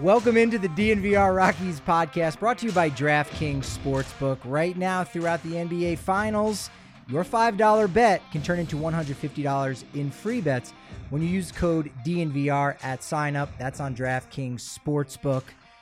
Welcome into the DNVR Rockies podcast, brought to you by DraftKings Sportsbook. Right now, throughout the NBA Finals, your $5 bet can turn into $150 in free bets when you use code DNVR at sign up. That's on DraftKings Sportsbook.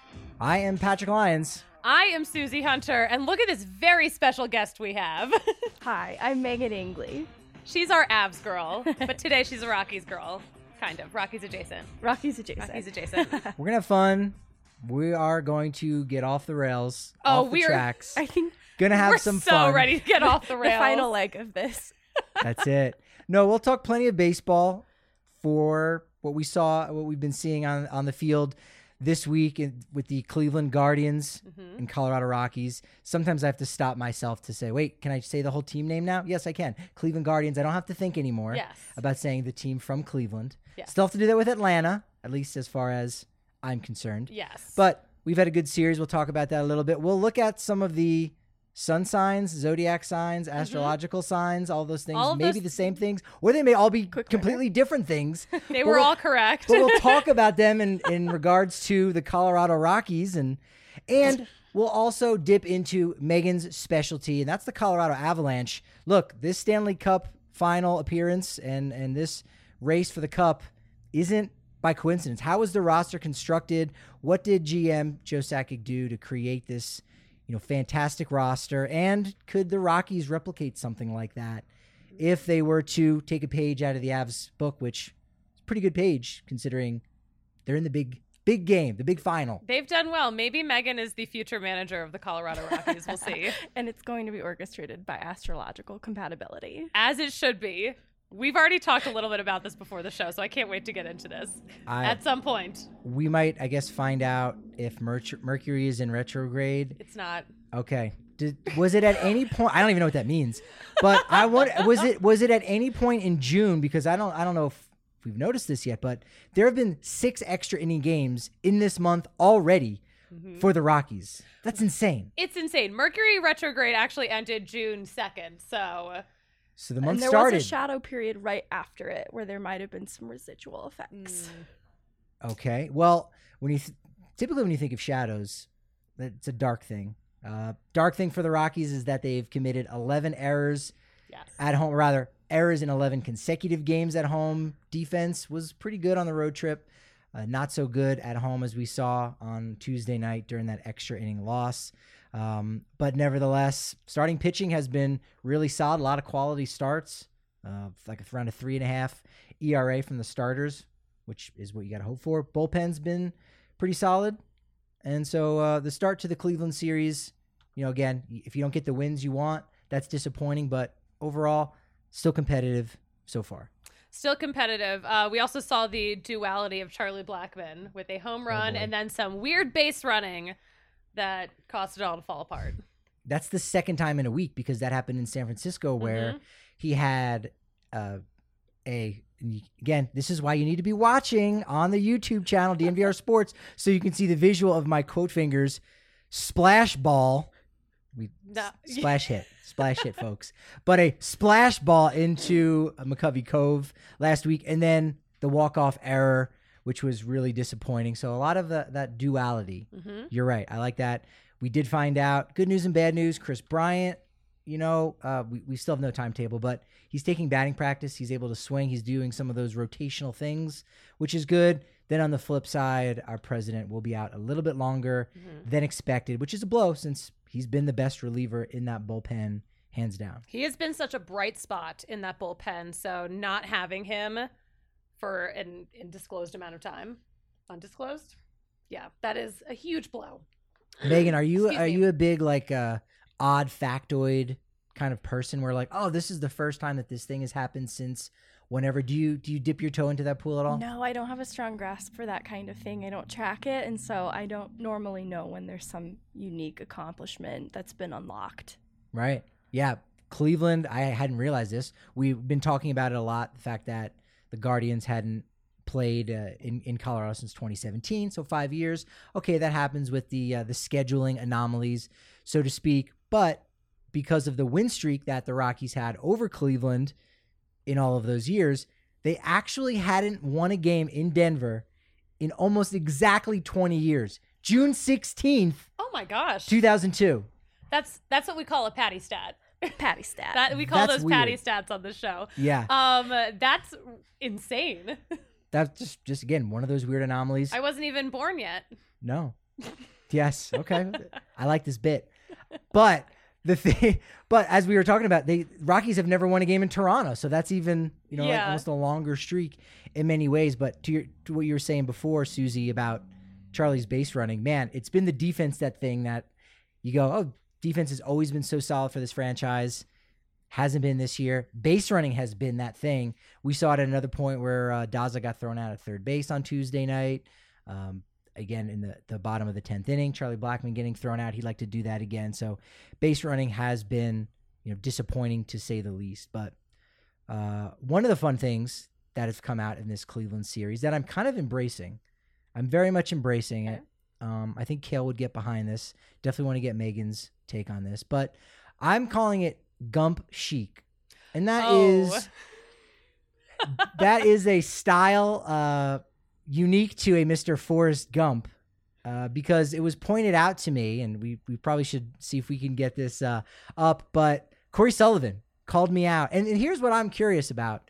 I am Patrick Lyons. I am Susie Hunter, and look at this very special guest we have. Hi, I'm Megan Ingley. She's our Avs girl, but today she's a Rockies girl. Kind of. Rockies adjacent. Rockies adjacent. We're going to have fun. We are going to get off the rails, off the tracks. I think going to have some fun. We're so ready to get off the rails. The final leg of this. That's it. No, we'll talk plenty of baseball for what we saw, what we've been seeing on the field this week with the Cleveland Guardians and Colorado Rockies. Sometimes I have to stop myself to say, wait, can I say the whole team name now? Yes, I can. Cleveland Guardians. I don't have to think anymore about saying the team from Cleveland. Yes. Still have to do that with Atlanta, at least as far as I'm concerned. Yes. But we've had a good series. We'll talk about that a little bit. We'll look at some of the sun signs, zodiac signs, astrological signs, all those things, maybe the same things, or they may all be completely different things. They were all correct. But we'll talk about them in regards to the Colorado Rockies, and we'll also dip into Megan's specialty, and that's the Colorado Avalanche. Look, this Stanley Cup final appearance and this race for the Cup isn't by coincidence. How was the roster constructed? What did GM Joe Sakic do to create this fantastic roster? And could the Rockies replicate something like that if they were to take a page out of the Avs book, which is a pretty good page considering they're in the big game, the big final. They've done well. Maybe Megan is the future manager of the Colorado Rockies. We'll see. And it's going to be orchestrated by astrological compatibility. As it should be. We've already talked a little bit about this before the show, so I can't wait to get into this at some point. We might, I guess, find out if Mercury is in retrograde. It's not. Okay. Was it at any point? I don't even know what that means. But was it at any point in June? Because I don't know if we've noticed this yet, but there have been 6 extra inning games in this month already for the Rockies. That's insane. It's insane. Mercury retrograde actually ended June 2nd, So the month there started. Was a shadow period right after it where there might have been some residual effects. Okay. Well, typically when you think of shadows, it's a dark thing. Dark thing for the Rockies is that they've committed 11 errors at home, rather errors in 11 consecutive games at home. Defense was pretty good on the road trip. Not so good at home as we saw on Tuesday night during that extra inning loss. But nevertheless, starting pitching has been really solid. A lot of quality starts, like around a 3.5 ERA from the starters, which is what you got to hope for. Bullpen's been pretty solid. And so the start to the Cleveland series, again, if you don't get the wins you want, that's disappointing. But overall, still competitive so far. Still competitive. We also saw the duality of Charlie Blackmon with a home run and then some weird base running that caused it all to fall apart. That's the second time in a week because that happened in San Francisco where he had again, this is why you need to be watching on the YouTube channel, DNVR Sports, so you can see the visual of my quote fingers, splash ball. Splash hit, folks. But a splash ball into McCovey Cove last week, and then the walk-off error, which was really disappointing. So a lot of that duality. You're right. I like that. We did find out good news and bad news. Chris Bryant, we still have no timetable, but he's taking batting practice. He's able to swing. He's doing some of those rotational things, which is good. Then on the flip side, our president will be out a little bit longer than expected, which is a blow since he's been the best reliever in that bullpen, hands down. He has been such a bright spot in that bullpen, so not having him for an undisclosed amount of time. Undisclosed? Yeah, that is a huge blow. Megan, are you a big odd factoid kind of person where this is the first time that this thing has happened since whenever? Do you dip your toe into that pool at all? No, I don't have a strong grasp for that kind of thing. I don't track it, and so I don't normally know when there's some unique accomplishment that's been unlocked. Right. Yeah. Cleveland, I hadn't realized this. We've been talking about it a lot, the fact that the Guardians hadn't played in Colorado since 2017, so 5 years. Okay, that happens with the scheduling anomalies, so to speak. But because of the win streak that the Rockies had over Cleveland in all of those years, they actually hadn't won a game in Denver in almost exactly 20 years. June 16th, Oh my gosh. 2002. That's what we call a patty stat. Patty stat. That we call That's those patty weird. stats on the show. Yeah. That's insane. That's just again, one of those weird anomalies. I wasn't even born yet. No. Yes. Okay. I like this bit. But but as we were talking about, Rockies have never won a game in Toronto. So that's even, like almost a longer streak in many ways. But to what you were saying before, Susie, about Charlie's base running, man, it's been the defense that you go, oh, defense has always been so solid for this franchise. Hasn't been this year. Base running has been that thing. We saw it at another point where Daza got thrown out at third base on Tuesday night. Again, in the bottom of the 10th inning, Charlie Blackmon getting thrown out. He'd like to do that again. So base running has been disappointing to say the least. But one of the fun things that has come out in this Cleveland series that I'm kind of embracing, I'm very much embracing it. I think Kale would get behind this. Definitely want to get Megan's take on this. But I'm calling it Gump Chic. And that is a style unique to a Mr. Forrest Gump, because it was pointed out to me, and we probably should see if we can get this up, but Corey Sullivan called me out. And here's what I'm curious about.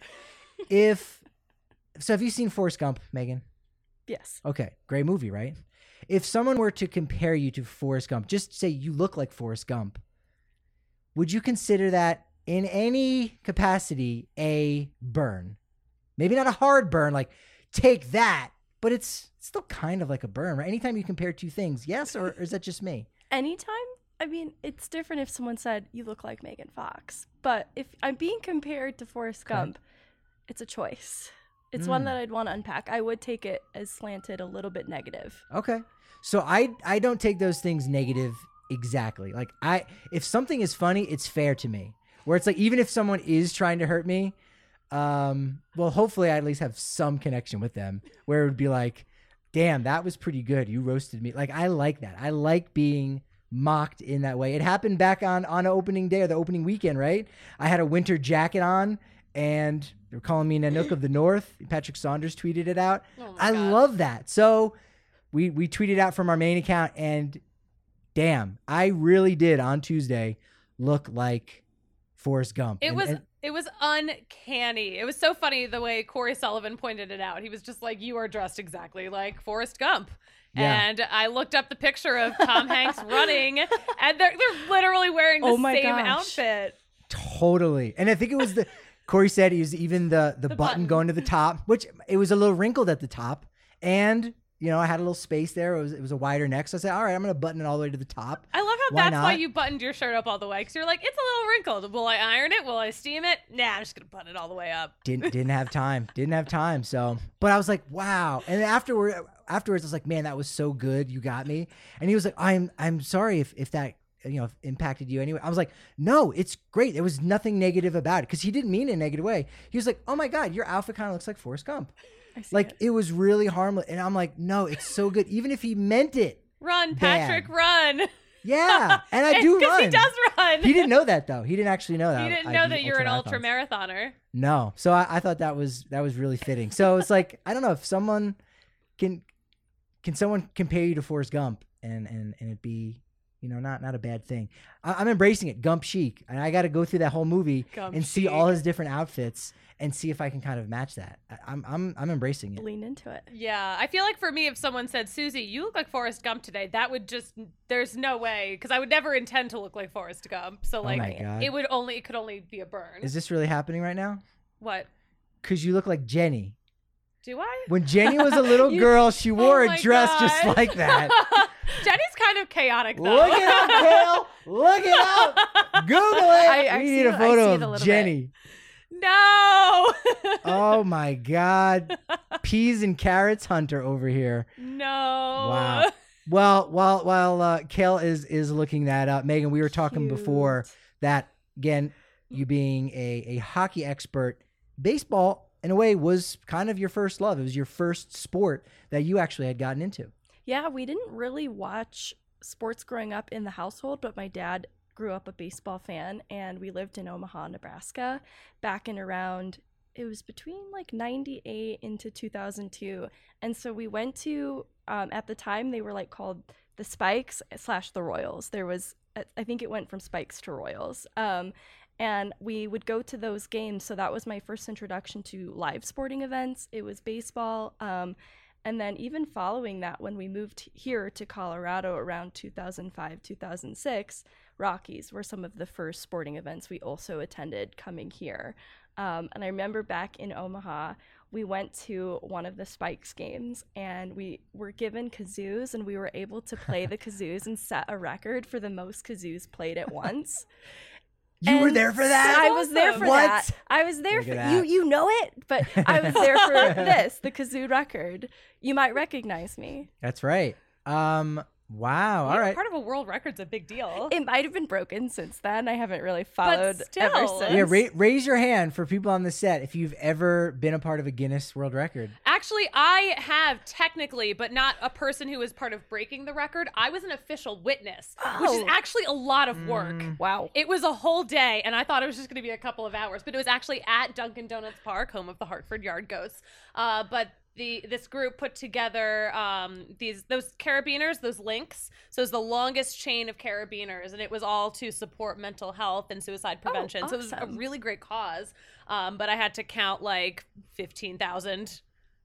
So have you seen Forrest Gump, Megan? Yes. Okay, great movie, right? If someone were to compare you to Forrest Gump, just say you look like Forrest Gump, would you consider that in any capacity a burn? Maybe not a hard burn, like take that, but it's still kind of like a burn, right? Anytime you compare two things, yes, or is that just me? Anytime? I mean, it's different if someone said, you look like Megan Fox. But if I'm being compared to Forrest Gump, it's a choice. It's one that I'd want to unpack. I would take it as slanted, a little bit negative. Okay. So I don't take those things negative exactly. Like if something is funny, it's fair to me. Where it's like, even if someone is trying to hurt me, well, hopefully I at least have some connection with them where it would be like, damn, that was pretty good. You roasted me. Like, I like that. I like being mocked in that way. It happened back on opening day or the opening weekend, right? I had a winter jacket on and they were calling me Nanook of the North. Patrick Saunders tweeted it out. Oh I love that. So we tweeted out from our main account, and damn, I really did on Tuesday look like Forrest Gump. It was uncanny. It was so funny the way Corey Sullivan pointed it out. He was just like, you are dressed exactly like Forrest Gump. Yeah. And I looked up the picture of Tom Hanks running, and they're literally wearing the same outfit. Totally. And I think it was Corey said it was even the button going to the top, which it was a little wrinkled at the top. And I had a little space there. It was a wider neck. So I said, all right, I'm going to button it all the way to the top. I love how that's why you buttoned your shirt up all the way. Because you're like, it's a little wrinkled. Will I iron it? Will I steam it? Nah, I'm just going to button it all the way up. Didn't have time. So, but I was like, wow. And afterwards, I was like, man, that was so good. You got me. And he was like, I'm sorry if that, impacted you anyway. I was like, no, it's great. There was nothing negative about it. Because he didn't mean it in a negative way. He was like, oh my God, your outfit kind of looks like Forrest Gump. Like, it was really harmless. And I'm like, no, it's so good. Even if he meant it. Run, Patrick, run. Yeah. And I do run. Because he does run. He didn't know that, though. He didn't actually know that. He didn't know that you're an ultra marathoner. No. So I thought that was really fitting. So it's like, I don't know if someone can someone compare you to Forrest Gump and it be, not a bad thing. I'm embracing it. Gump chic. And I got to go through that whole movie and see all his different outfits and see if I can kind of match that. I'm embracing it. Lean into it. Yeah. I feel like for me, if someone said, Susie, you look like Forrest Gump today, that would just, there's no way. Because I would never intend to look like Forrest Gump. So like, it could only be a burn. Is this really happening right now? What? Because you look like Jenny. Do I? When Jenny was a little girl, she wore a dress just like that. Jenny's kind of chaotic, though. Look it up, Kale. Look it up. Google it. We need a photo of Jenny. No. Oh, my God. Peas and carrots hunter over here. No. Wow. Well, while Kale is looking that up, Megan, we were talking before that, again, you being a hockey expert, baseball, in a way, was kind of your first love. It was your first sport that you actually had gotten into. Yeah, we didn't really watch sports growing up in the household, but my dad grew up a baseball fan, and we lived in Omaha, Nebraska, back in around it was between like 98 into 2002. And so we went to, at the time, they were like called the Spikes / the Royals. There was, I think it went from Spikes to Royals. And we would go to those games. So that was my first introduction to live sporting events. It was baseball. And then even following that, when we moved here to Colorado around 2005, 2006, Rockies were some of the first sporting events we also attended coming here. And I remember back in Omaha, we went to one of the Spikes games and we were given kazoos and we were able to play the kazoos and set a record for the most kazoos played at once. You were there for that? I was there for that. I was there for you know it, but I was there for the kazoo record. You might recognize me. That's right. Wow. All right. Part of a world record's a big deal. It might have been broken since then. I haven't really followed ever since. Yeah, raise your hand for people on the set if you've ever been a part of a Guinness World Record. Actually, I have technically, but not a person who was part of breaking the record. I was an official witness, which is actually a lot of work. Wow. It was a whole day, and I thought it was just going to be a couple of hours, but it was actually at Dunkin' Donuts Park, home of the Hartford Yard Ghosts. But this group put together those carabiners, those links. So it's the longest chain of carabiners, and it was all to support mental health and suicide prevention. Awesome. So it was a really great cause. But I had to count like 15,000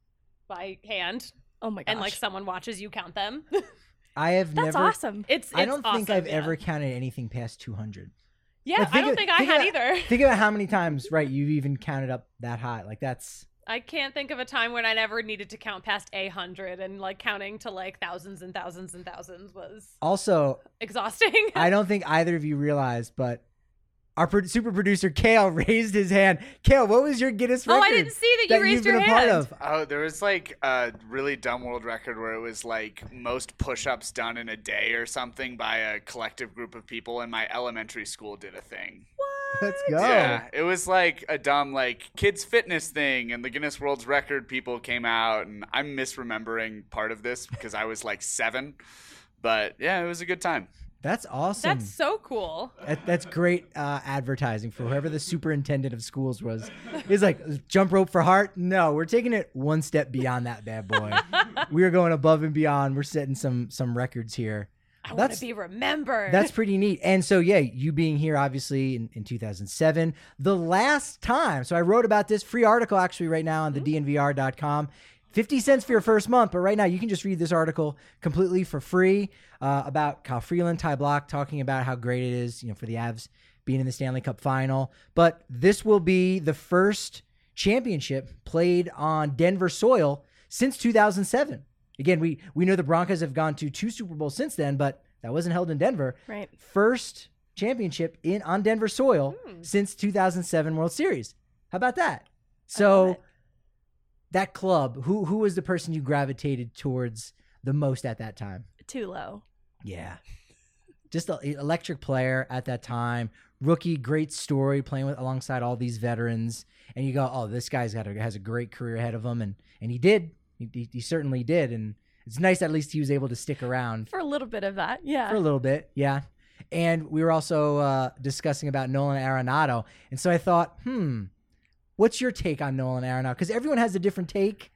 by hand. Oh my gosh! And like someone watches you count them. That's awesome. I don't think I've ever counted anything past 200. Yeah, I don't think I had either. Think about how many times, right? You've even counted up that high. Like that's. I can't think of a time when I never needed to count past 100, and like counting to like thousands and thousands and thousands was also exhausting. I don't think either of you realized, but our super producer Kale raised his hand. Kale, what was your Guinness record? Oh, I didn't see that you raised your hand. Oh, there was like a really dumb world record where it was like most push-ups done in a day or something by a collective group of people, and my elementary school did a thing. What? Let's go. Yeah, it was like a dumb like kids fitness thing, and the Guinness World Record people came out, and I'm misremembering part of this because I was like 7, but yeah, it was a good time. That's awesome. That's so cool. That's great advertising for whoever the superintendent of schools was. He's like, jump rope for heart? No, we're taking it one step beyond that bad boy. We're going above and beyond. We're setting some records here. I want to be remembered. That's pretty neat. And so, yeah, you being here, obviously, in 2007, the last time. So I wrote about this free article, actually, right now on the DNVR.com. 50 cents for your first month, but right now you can just read this article completely for free about Kyle Freeland, Ty Block, talking about how great it is, for the Avs being in the Stanley Cup final. But this will be the first championship played on Denver soil since 2007. Again, we know the Broncos have gone to 2 Super Bowls since then, but that wasn't held in Denver. Right. First championship on Denver soil since 2007 World Series. How about that? So that club, who was the person you gravitated towards the most at that time? Tulo. Yeah. Just an electric player at that time. Rookie, great story, playing alongside all these veterans. And you go, oh, this guy's has a great career ahead of him. And he did. He certainly did. And it's nice at least he was able to stick around. For a little bit of that, yeah. For a little bit, yeah. And we were also discussing about Nolan Arenado. And so I thought, what's your take on Nolan Arenado? Because everyone has a different take.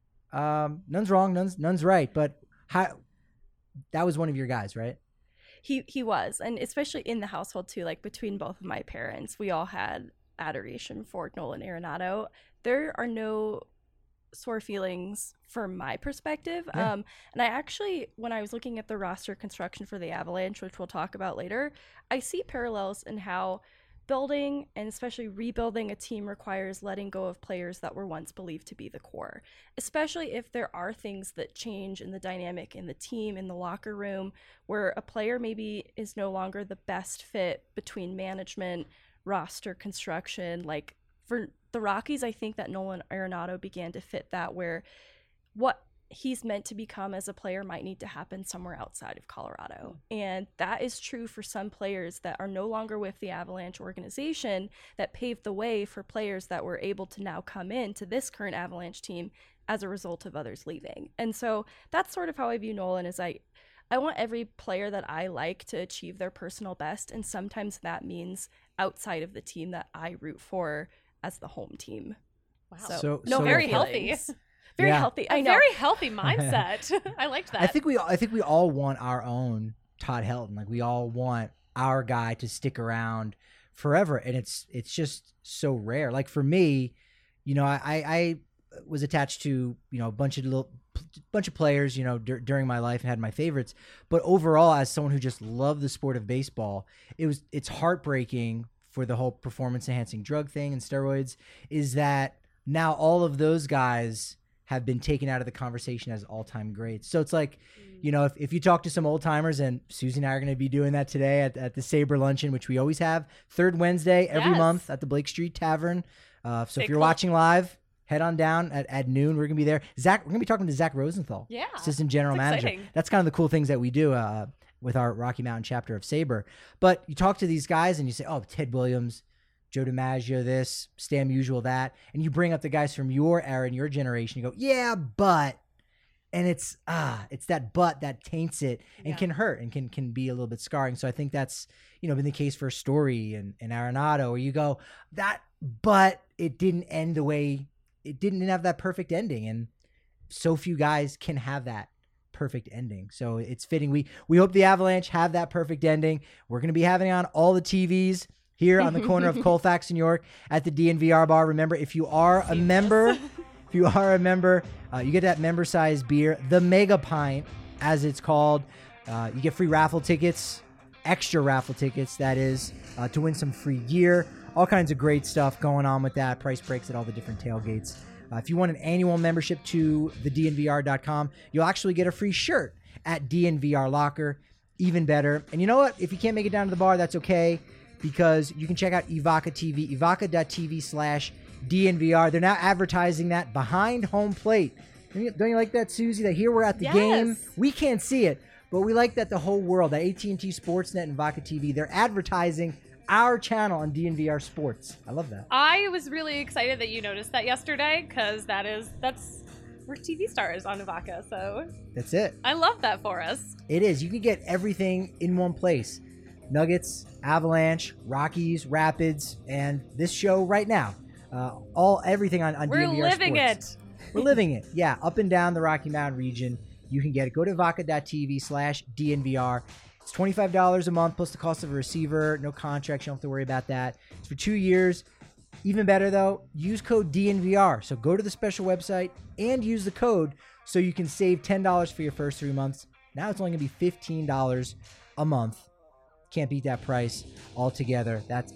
None's wrong, none's right. But that was one of your guys, right? He was. And especially in the household, too, like between both of my parents, we all had adoration for Nolan Arenado. There are no sore feelings from my perspective. Yeah. And I actually, when I was looking at the roster construction for the Avalanche, which we'll talk about later, I see parallels in how building and especially rebuilding a team requires letting go of players that were once believed to be the core, especially if there are things that change in the dynamic in the team, in the locker room, where a player maybe is no longer the best fit between management, roster construction. Like for the Rockies, I think that Nolan Arenado began to fit that, where what he's meant to become as a player might need to happen somewhere outside of Colorado. And that is true for some players that are no longer with the Avalanche organization, that paved the way for players that were able to now come into this current Avalanche team as a result of others leaving. And so that's sort of how I view Nolan, is I want every player that I like to achieve their personal best. And sometimes that means outside of the team that I root for as the home team. Wow. So very feelings. healthy. Very Yeah. healthy. I A know. very healthy mindset. I liked that. I think we all want our own Todd Helton. Like we all want our guy to stick around forever, and it's just so rare. Like for me, you know, I was attached to, you know, a bunch of players, you know, during my life and had my favorites. But overall, as someone who just loved the sport of baseball, it's heartbreaking for the whole performance enhancing drug thing and steroids. Is that now all of those guys have been taken out of the conversation as all-time greats. So it's like, you know, if you talk to some old timers, and Susie and I are going to be doing that today at the Sabre Luncheon, which we always have third Wednesday every month at the Blake Street Tavern. So if you're watching live, head on down at noon. We're going to be there. We're going to be talking to Zach Rosenthal, assistant general manager. Exciting. That's kind of the cool things that we do with our Rocky Mountain chapter of Sabre. But you talk to these guys and you say, oh, Ted Williams, Joe DiMaggio, this, Stan Musial, that. And you bring up the guys from your era and your generation. You go, yeah, but. And it's that but that taints it and can hurt and can be a little bit scarring. So I think that's, you know, been the case for Story and Arenado, where you go, but it didn't end the way, it didn't have that perfect ending. And so few guys can have that perfect ending. So it's fitting. We hope the Avalanche have that perfect ending. We're going to be having on all the TVs here on the corner of Colfax and York at the DNVR bar. Remember, if you are a member, you get that member-sized beer, the Mega Pint, as it's called. You get free raffle tickets, extra raffle tickets, that is, to win some free gear. All kinds of great stuff going on with that. Price breaks at all the different tailgates. If you want an annual membership to thednvr.com, you'll actually get a free shirt at DNVR Locker. Even better. And you know what? If you can't make it down to the bar, that's okay, because you can check out Evoca TV, evoca.tv/DNVR. They're now advertising that behind home plate. Don't you like that, Susie? That here we're at the game. We can't see it, but we like that the whole world, that AT&T Sportsnet and Evoca TV, they're advertising our channel on DNVR Sports. I love that. I was really excited that you noticed that yesterday, because we're TV stars on Evoca, so that's it. I love that for us. It is. You can get everything in one place. Nuggets, Avalanche, Rockies, Rapids, and this show right now. Everything on We're DNVR living Sports. We're living it. Yeah, up and down the Rocky Mountain region. You can get it. Go to evoca.tv/DNVR. It's $25 a month plus the cost of a receiver. No contracts. You don't have to worry about that. It's for 2 years. Even better, though, use code DNVR. So go to the special website and use the code so you can save $10 for your first 3 months. Now it's only going to be $15 a month. Can't beat that price altogether. That's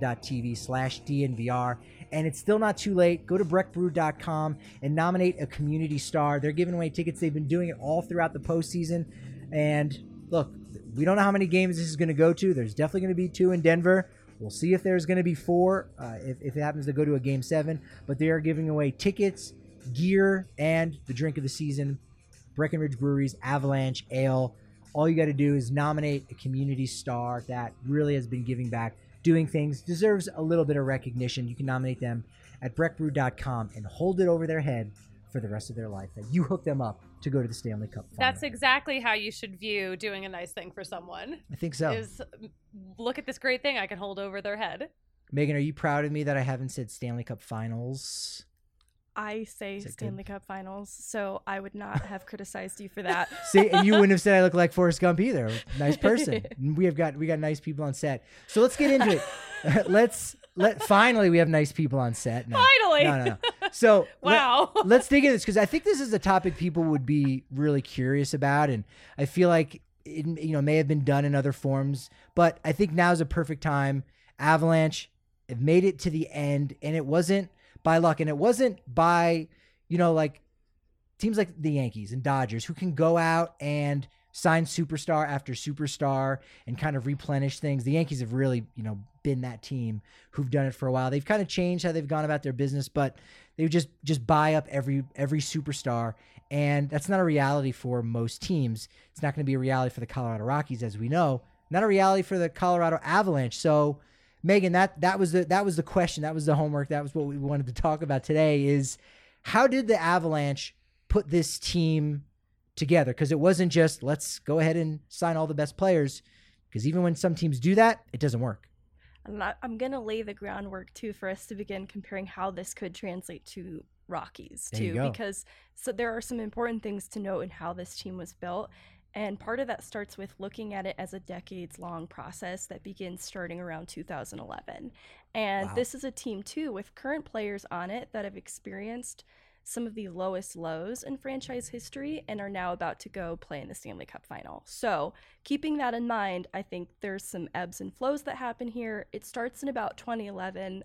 evoca.tv/DNVR. And it's still not too late. Go to breckbrew.com and nominate a community star. They're giving away tickets. They've been doing it all throughout the postseason. And look, we don't know how many games this is going to go to. There's definitely going to be 2 in Denver. We'll see if there's going to be 4 if it happens to go to a Game 7. But they are giving away tickets, gear, and the drink of the season, Breckenridge Brewery's Avalanche Ale. All you got to do is nominate a community star that really has been giving back, doing things, deserves a little bit of recognition. You can nominate them at breckbrew.com and hold it over their head for the rest of their life, that you hook them up to go to the Stanley Cup final. That's exactly how you should view doing a nice thing for someone. I think so. Is look at this great thing I can hold over their head. Megan, are you proud of me that I haven't said Stanley Cup finals? I say Stanley Cup Finals, so I would not have criticized you for that. See, and you wouldn't have said I look like Forrest Gump either. Nice person. We got nice people on set. So let's get into it. Finally we have nice people on set. No. Finally. No. So wow. Let's dig into this, because I think this is a topic people would be really curious about, and I feel like it, may have been done in other forms, but I think now is a perfect time. Avalanche have made it to the end, and it wasn't by luck, and it wasn't by, like teams like the Yankees and Dodgers, who can go out and sign superstar after superstar and kind of replenish things. The Yankees have really, been that team who've done it for a while. They've kind of changed how they've gone about their business, but they would just buy up every superstar, and that's not a reality for most teams. It's not going to be a reality for the Colorado Rockies, as we know. Not a reality for the Colorado Avalanche. So, Megan, that was the question. That was the homework. That was what we wanted to talk about today, is how did the Avalanche put this team together? Because it wasn't just, let's go ahead and sign all the best players, because even when some teams do that, it doesn't work. I'm going to lay the groundwork too for us to begin comparing how this could translate to Rockies too, because there are some important things to note in how this team was built. And part of that starts with looking at it as a decades-long process that begins starting around 2011. And this is a team, too, with current players on it that have experienced some of the lowest lows in franchise history and are now about to go play in the Stanley Cup final. So keeping that in mind, I think there's some ebbs and flows that happen here. It starts in about 2011.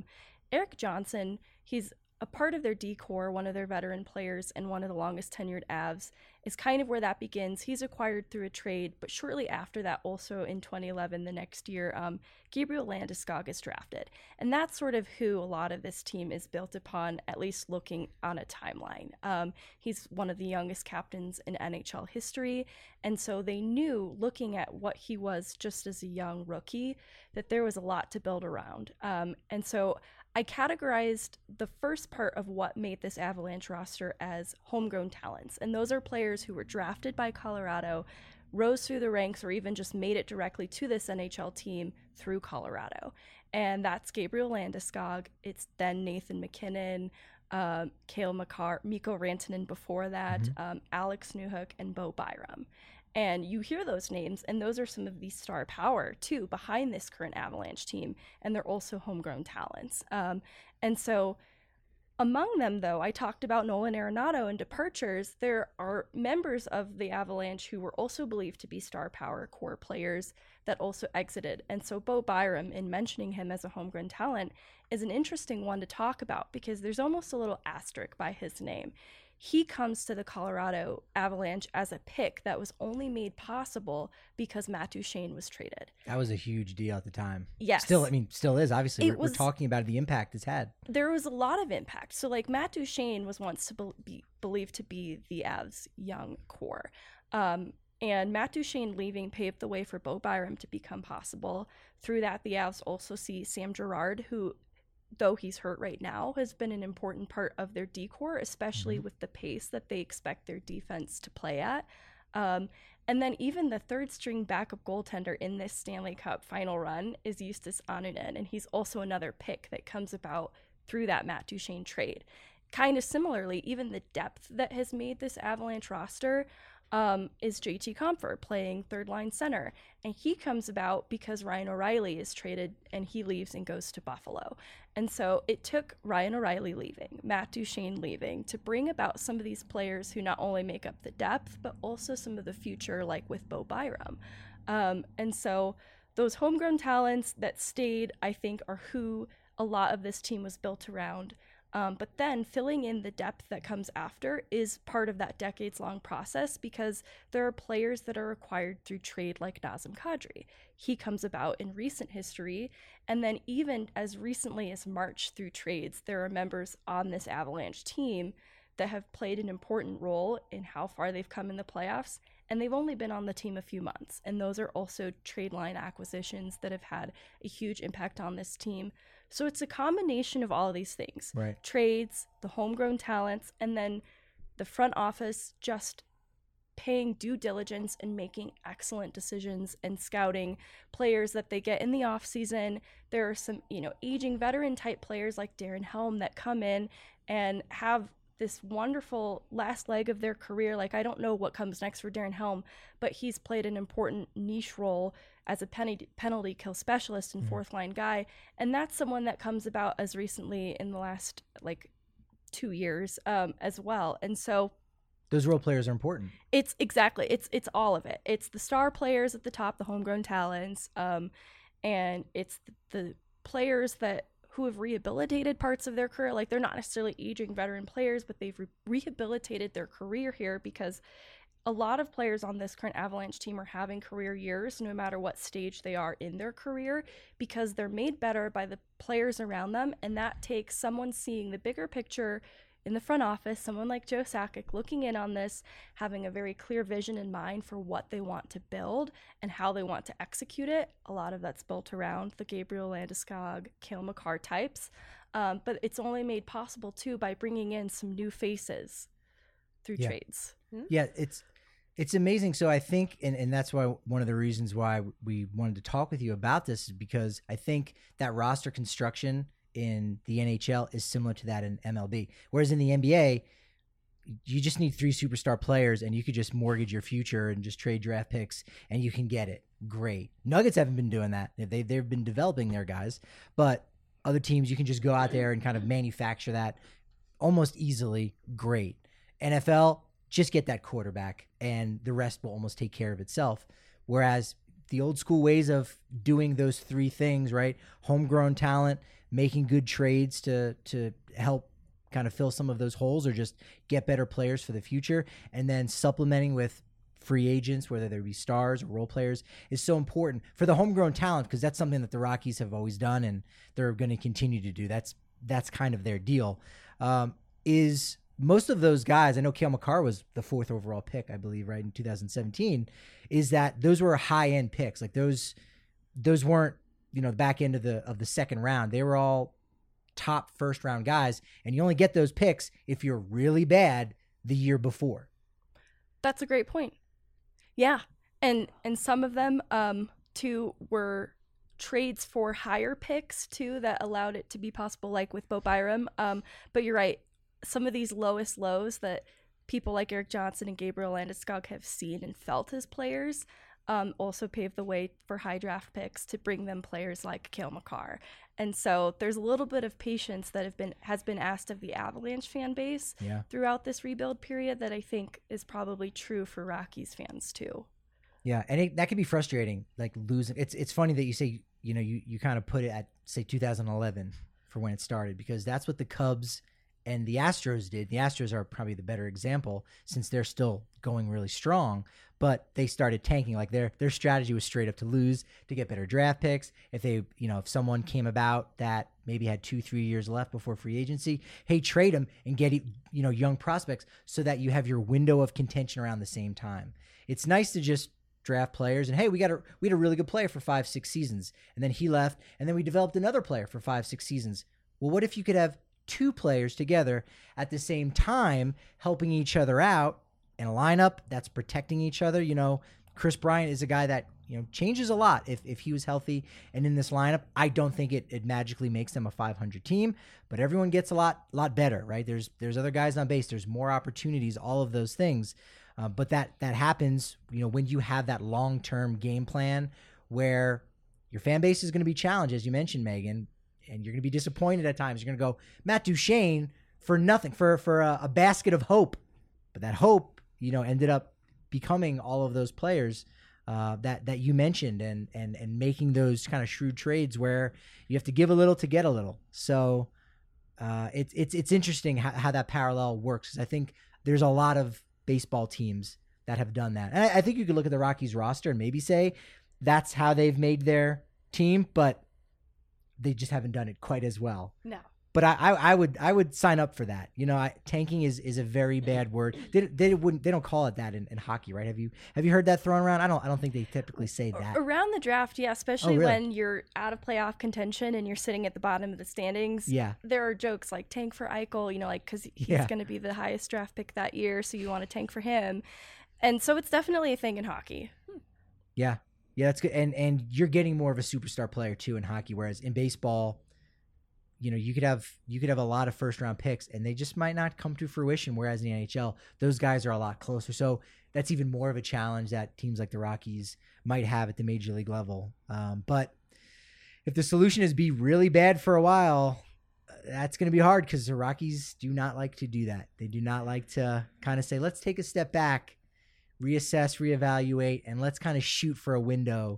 Erik Johnson, he's a part of their D-core, one of their veteran players and one of the longest tenured Avs, is kind of where that begins. He's acquired through a trade, but shortly after that, also in 2011, the next year, Gabriel Landeskog is drafted. And that's sort of who a lot of this team is built upon, at least looking on a timeline. He's one of the youngest captains in NHL history, and so they knew, looking at what he was just as a young rookie, that there was a lot to build around. And so I categorized the first part of what made this Avalanche roster as homegrown talents. And those are players who were drafted by Colorado, rose through the ranks, or even just made it directly to this NHL team through Colorado. And that's Gabriel Landeskog. It's then Nathan MacKinnon, Cale Makar, Mikko Rantanen before that, Alex Newhook, and Bo Byram. And you hear those names, and those are some of the star power, too, behind this current Avalanche team. And they're also homegrown talents. And so among them, though, I talked about Nolan Arenado and departures. There are members of the Avalanche who were also believed to be star power core players that also exited. And so Bo Byram, in mentioning him as a homegrown talent, is an interesting one to talk about because there's almost a little asterisk by his name. He comes to the Colorado Avalanche as a pick that was only made possible because Matt Duchene was traded. That was a huge deal at the time. Yes. Still is, obviously. We're talking about the impact it's had. There was a lot of impact. So, like, Matt Duchene was once believed to be the Avs' young core. And Matt Duchene leaving paved the way for Bo Byram to become possible. Through that, the Avs also see Sam Girard, who, though he's hurt right now, has been an important part of their D-core, especially with the pace that they expect their defense to play at. And then even the third-string backup goaltender in this Stanley Cup final run is Justus Annunen, and he's also another pick that comes about through that Matt Duchene trade. Kind of similarly, even the depth that has made this Avalanche roster is JT Compher playing third-line center. And he comes about because Ryan O'Reilly is traded and he leaves and goes to Buffalo. And so it took Ryan O'Reilly leaving, Matt Duchene leaving, to bring about some of these players who not only make up the depth, but also some of the future, like with Bo Byram. And so those homegrown talents that stayed, I think, are who a lot of this team was built around. But then filling in the depth that comes after is part of that decades-long process because there are players that are acquired through trade like Nazem Kadri. He comes about in recent history, and then even as recently as March through trades, there are members on this Avalanche team that have played an important role in how far they've come in the playoffs, and they've only been on the team a few months. And those are also trade line acquisitions that have had a huge impact on this team. So it's a combination of all of these things. Right. Trades, the homegrown talents, and then the front office just paying due diligence and making excellent decisions and scouting players that they get in the offseason. There are some, aging veteran type players like Darren Helm that come in and have this wonderful last leg of their career. Like, I don't know what comes next for Darren Helm, but he's played an important niche role as a penalty kill specialist and fourth line guy. And that's someone that comes about as recently in the last 2 years as well. And so those role players are important. It's all of it. It's the star players at the top, the homegrown talents, and it's the players who have rehabilitated parts of their career. Like, they're not necessarily aging veteran players, but they've rehabilitated their career here because a lot of players on this current Avalanche team are having career years, no matter what stage they are in their career, because they're made better by the players around them. And that takes someone seeing the bigger picture in the front office, someone like Joe Sakic looking in on this, having a very clear vision in mind for what they want to build and how they want to execute it. A lot of that's built around the Gabriel Landeskog, Cale Makar types. But it's only made possible, too, by bringing in some new faces through trades. Yeah, It's amazing. So I think, and that's why one of the reasons why we wanted to talk with you about this is because I think that roster construction in the NHL is similar to that in MLB. Whereas in the NBA, you just need 3 superstar players and you could just mortgage your future and just trade draft picks and you can get it. Great. Nuggets haven't been doing that. They've been developing their guys, but other teams, you can just go out there and kind of manufacture that almost easily. Great. NFL, just get that quarterback and the rest will almost take care of itself. Whereas the old school ways of doing those 3 things, right? Homegrown talent, making good trades to help kind of fill some of those holes or just get better players for the future, and then supplementing with free agents, whether they be stars or role players, is so important for the homegrown talent, because that's something that the Rockies have always done and they're going to continue to do. That's kind of their deal. Is most of those guys, I know Cale Makar was the 4th overall pick, I believe, right, in 2017, is that those were high-end picks. Like those weren't, the back end of the second round. They were all top first-round guys, and you only get those picks if you're really bad the year before. That's a great point. Yeah, and some of them too were trades for higher picks too that allowed it to be possible, like with Bo Byram. But you're right, some of these lowest lows that people like Erik Johnson and Gabriel Landeskog have seen and felt as players also paved the way for high draft picks to bring them players like Cale Makar. And so there's a little bit of patience that has been asked of the Avalanche fan base throughout this rebuild period that I think is probably true for Rockies fans too. Yeah, and that can be frustrating, like losing. It's funny that you say, you kind of put it at, say, 2011 for when it started, because that's what the Cubs and the Astros did. The Astros are probably the better example since they're still going really strong, but they started tanking. Like their strategy was straight up to lose, to get better draft picks. If they, if someone came about that maybe had 2-3 years left before free agency, hey, trade them and get, young prospects so that you have your window of contention around the same time. It's nice to just draft players and, hey, we had a really good player for 5-6 seasons, and then he left, and then we developed another player for 5-6 seasons. Well, what if you could have 2 players together at the same time, helping each other out in a lineup that's protecting each other? Chris Bryant is a guy that, changes a lot if he was healthy and in this lineup. I don't think it magically makes them a 500 team, but everyone gets a lot better, right? There's other guys on base. There's more opportunities, all of those things. But that happens, when you have that long-term game plan where your fan base is going to be challenged, as you mentioned, Megan, and you're going to be disappointed at times. You're going to go, Matt Duchene, for nothing, for a basket of hope. But that hope, ended up becoming all of those players that you mentioned, and making those kind of shrewd trades where you have to give a little to get a little. So it's interesting how that parallel works, because I think there's a lot of baseball teams that have done that. And I think you could look at the Rockies roster and maybe say that's how they've made their team, but they just haven't done it quite as well. No. But I would sign up for that. Tanking is a very bad word. They don't call it that in hockey, right? Have you heard that thrown around? I don't think they typically say that. Around the draft, yeah, especially when you're out of playoff contention and you're sitting at the bottom of the standings. Yeah. There are jokes like tank for Eichel, because he's going to be the highest draft pick that year, so you want to tank for him. And so it's definitely a thing in hockey. Yeah. Yeah, that's good. And you're getting more of a superstar player too in hockey, whereas in baseball, you could have a lot of first round picks and they just might not come to fruition. Whereas in the NHL, those guys are a lot closer. So that's even more of a challenge that teams like the Rockies might have at the major league level. But if the solution is be really bad for a while, that's going to be hard, because the Rockies do not like to do that. They do not like to kind of say, let's take a step back, reassess, reevaluate, and let's kind of shoot for a window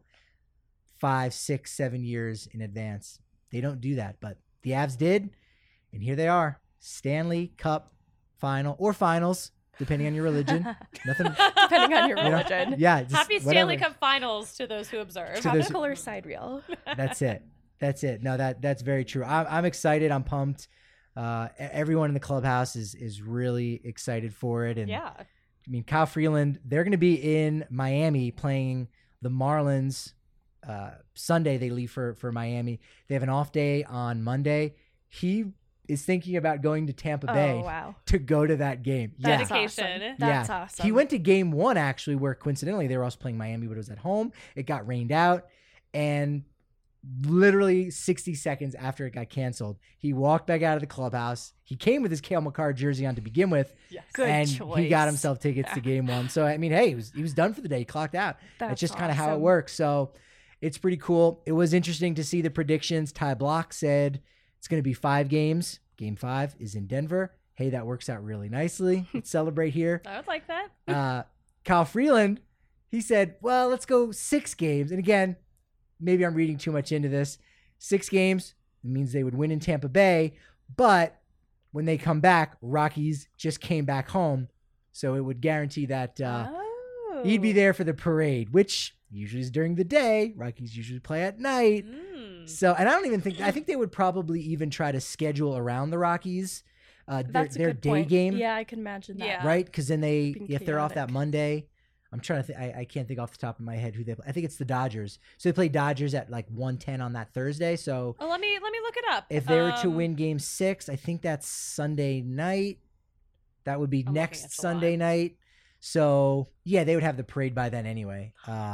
5, 6, 7 years in advance. They don't do that, but the Avs did, and here they are. Stanley Cup final, or finals, depending on your religion. Nothing. Depending on your religion. Yeah. Happy Stanley Cup finals to those who observe. Tropical or sidereal. That's it. No, that's very true. I'm excited. I'm pumped. Everyone in the clubhouse is really excited for it. And yeah. I mean, Kyle Freeland, they're going to be in Miami playing the Marlins. Sunday they leave for Miami. They have an off day on Monday. He is thinking about going to Tampa Bay to go to that game. That's Dedication. awesome. That's awesome. He went to game 1 actually, where coincidentally they were also playing Miami, but it was at home. It got rained out, and literally 60 seconds after it got canceled, he walked back out of the clubhouse. He came with his Cale Makar jersey on to begin with, Good choice. He got himself tickets to game 1. So I mean, hey, he was done for the day. He clocked out. That's just kind of how it works. So it's pretty cool. It was interesting to see the predictions. Ty Block said it's going to be 5 games. Game 5 is in Denver. Hey, that works out really nicely. Let's celebrate here. I would like that. Kyle Freeland, he said, well, let's go 6 games. And again, maybe I'm reading too much into this. 6 games means they would win in Tampa Bay, but when they come back, Rockies just came back home, so it would guarantee that he'd be there for the parade, which usually is during the day. Rockies usually play at night. So, and I think they would probably even try to schedule around the Rockies their day point. game. Yeah, I can imagine that. Right? Because then if they're off that Monday, I'm trying to think. I can't think off the top of my head who they play. I think it's the Dodgers. So they play Dodgers at like 1:10 on that Thursday. So let me look it up. If they were to win Game 6, I think that's Sunday night. That would be next Sunday night. So yeah, they would have the parade by then anyway.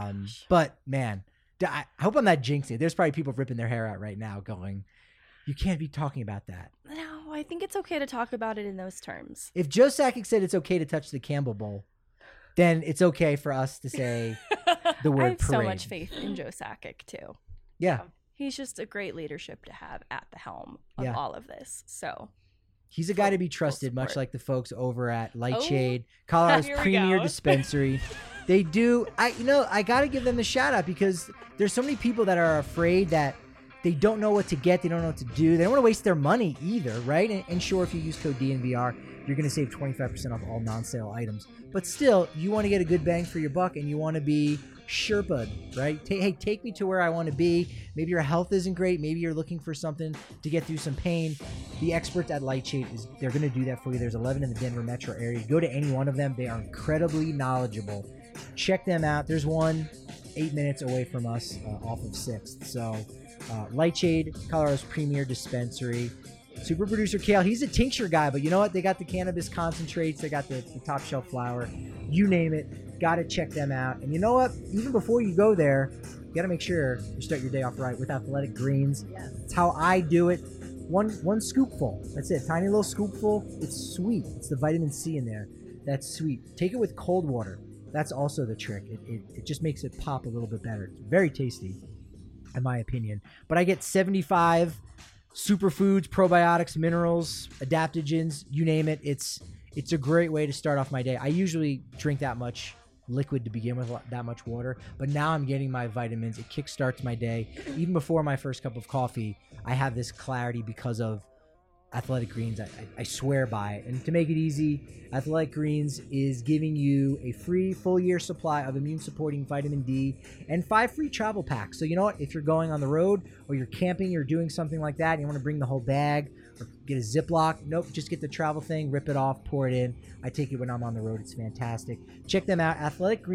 But man, I hope I'm not jinxing it. There's probably people ripping their hair out right now, going, "You can't be talking about that." No, I think it's okay to talk about it in those terms. If Joe Sakic said it's okay to touch the Campbell Bowl, then it's okay for us to say the word I have parade. so much faith in Joe Sakic, too. Yeah. He's just a great leadership to have at the helm of all of this. So he's a guy to be trusted, much like the folks over at Lightshade, Colorado's premier dispensary. They do. I got to give them the shout out, because there's so many people that are afraid that they don't know what to get. They don't know what to do. They don't want to waste their money either, right? And sure, if you use code DNVR, you're going to save 25% off all non-sale items. But still, you want to get a good bang for your buck, and you want to be Sherpa'd, right? Hey, take me to where I want to be. Maybe your health isn't great. Maybe you're looking for something to get through some pain. The experts at Lightshade, they're going to do that for you. There's 11 in the Denver metro area. Go to any one of them. They are incredibly knowledgeable. Check them out. There's one 8 minutes away from us off of 6th. So Lightshade, Colorado's premier dispensary. Super producer Kale, he's a tincture guy, but you know what? They got the cannabis concentrates. They got the top shelf flower. You name it. Got to check them out. And you know what? Even before you go there, you got to make sure you start your day off right with Athletic Greens. Yes. It's how I do it. One scoopful. That's it. Tiny little scoopful. It's sweet. It's the vitamin C in there. That's sweet. Take it with cold water. That's also the trick. It just makes it pop a little bit better. It's very tasty, in my opinion. But I get 75 superfoods, probiotics, minerals, adaptogens, you name it. It's a great way to start off my day. I usually drink that much liquid to begin with, that much water, but now I'm getting my vitamins. It kickstarts my day. Even before my first cup of coffee, I have this clarity because of Athletic Greens. I swear by it. And to make it easy, Athletic Greens is giving you a free full year supply of immune supporting vitamin D and 5 free travel packs. So you know what? If you're going on the road or you're camping or doing something like that and you want to bring the whole bag or get a Ziploc, nope, just get the travel thing, rip it off, pour it in. I take it when I'm on the road. It's fantastic. Check them out,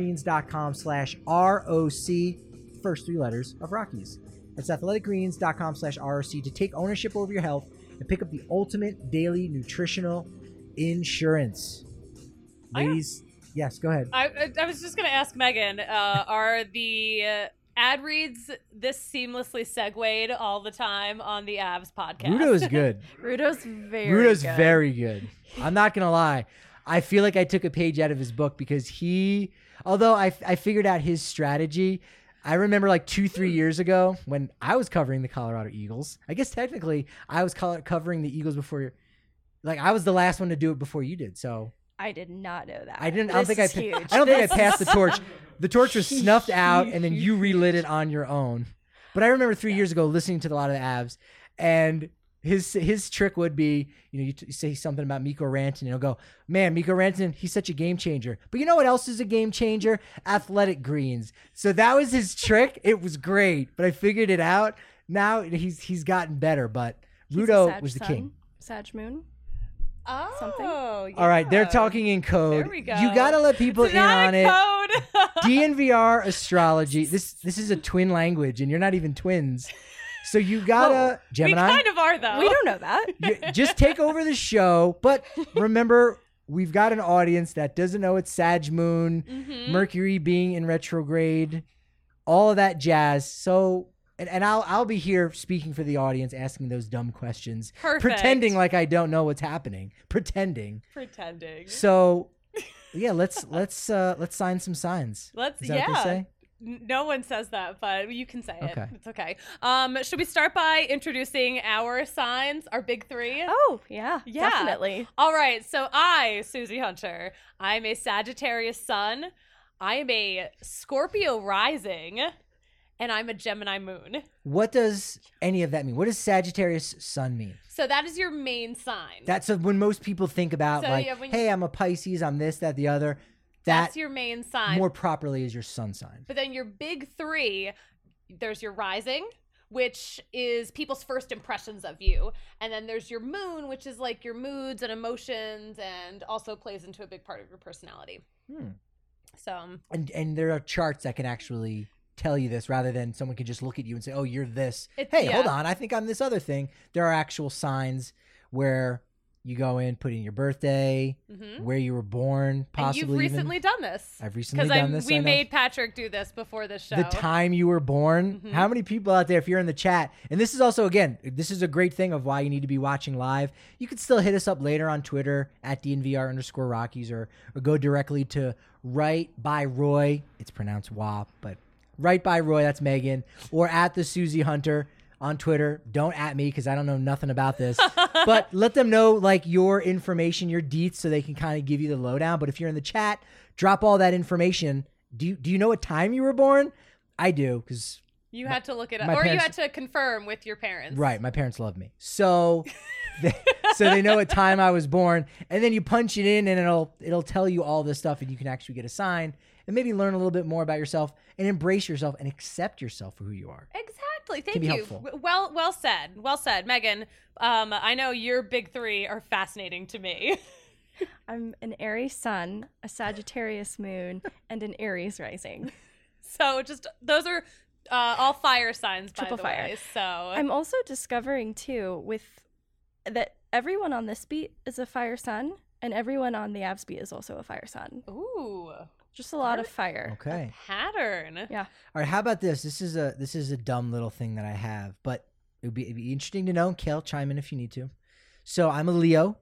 athleticgreens.com/ROC, first 3 letters of Rockies. That's athleticgreens.com/ROC to take ownership over your health and pick up the ultimate daily nutritional insurance. Ladies, yes, go ahead. I was just going to ask Megan, are the ad reads this seamlessly segued all the time on the Avs podcast? Rudo's good. Rudo's very good. I'm not going to lie. I feel like I took a page out of his book because although I figured out his strategy, I remember like 2-3 years ago when I was covering the Colorado Eagles. I guess technically I was covering the Eagles before, like I was the last one to do it before you did. So I did not know that. I don't think I passed the torch. The torch was snuffed out and then you relit it on your own. But I remember 3 years ago listening to a lot of the Avs, and his trick would be, you say something about Mikko Rantanen, and he'll go, man, Mikko Rantanen, he's such a game changer. But you know what else is a game changer? Athletic Greens. So that was his trick. It was great, but I figured it out. Now he's gotten better, but Rudo was the king. Sag Moon. Oh, something. Yeah. All right, they're talking in code. There we go. You got to let people it's in on it. Code. DNVR astrology. This is a twin language, and you're not even twins. So you gotta, Gemini. We kind of are, though. We don't know that. Just take over the show. But remember, we've got an audience that doesn't know it's Sag Moon, Mercury being in retrograde, all of that jazz. So, and I'll be here speaking for the audience, asking those dumb questions, pretending like I don't know what's happening, pretending. So, yeah, let's sign some signs. Is that what they say? No one says that, but you can say it. It's okay. Should we start by introducing our signs, our big three? Oh, yeah, definitely. All right. So I, Susie Hunter, I'm a Sagittarius sun. I am a Scorpio rising, and I'm a Gemini moon. What does any of that mean? What does Sagittarius sun mean? So that is your main sign. That's when most people think about hey, I'm a Pisces, I'm this, that, the other. That's your main sign. More properly is your sun sign. But then your big three, there's your rising, which is people's first impressions of you. And then there's your moon, which is like your moods and emotions and also plays into a big part of your personality. So and there are charts that can actually tell you this rather than someone can just look at you and say, oh, you're this. Hold on, I think I'm this other thing. There are actual signs where you go in, put in your birthday, where you were born, possibly. And you've recently done this. I've recently done this. We made Patrick do this before this show. The time you were born. How many people out there, if you're in the chat, and this is also, again, this is a great thing of why you need to be watching live. You could still hit us up later on Twitter at DNVR_Rockies or go directly to Right by Roy. It's pronounced WAP, but Right by Roy, that's Megan, or at the Susie Hunter on Twitter. Don't at me because I don't know nothing about this. But let them know like your information, your deets, so they can kind of give you the lowdown. But if you're in the chat, drop all that information. Do you know what time you were born? I do because you had to look it up, or you had to confirm with your parents. Right, my parents love me, so they know what time I was born. And then you punch it in, and it'll tell you all this stuff, and you can actually get a sign and maybe learn a little bit more about yourself and embrace yourself and accept yourself for who you are. Exactly. Thank you. Helpful. Well said, Megan. I know your big three are fascinating to me. I'm an Aries sun, a Sagittarius moon, and an Aries rising. So just those are all fire signs, Triple by the fire. way. So I'm also discovering too that everyone on this beat is a fire sun, and everyone on the abs beat is also a fire sun. Ooh. Just a lot of fire. Okay. A pattern. Yeah. All right. How about this? This is a dumb little thing that I have, but it'd be interesting to know. Kale, chime in if you need to. So I'm a Leo,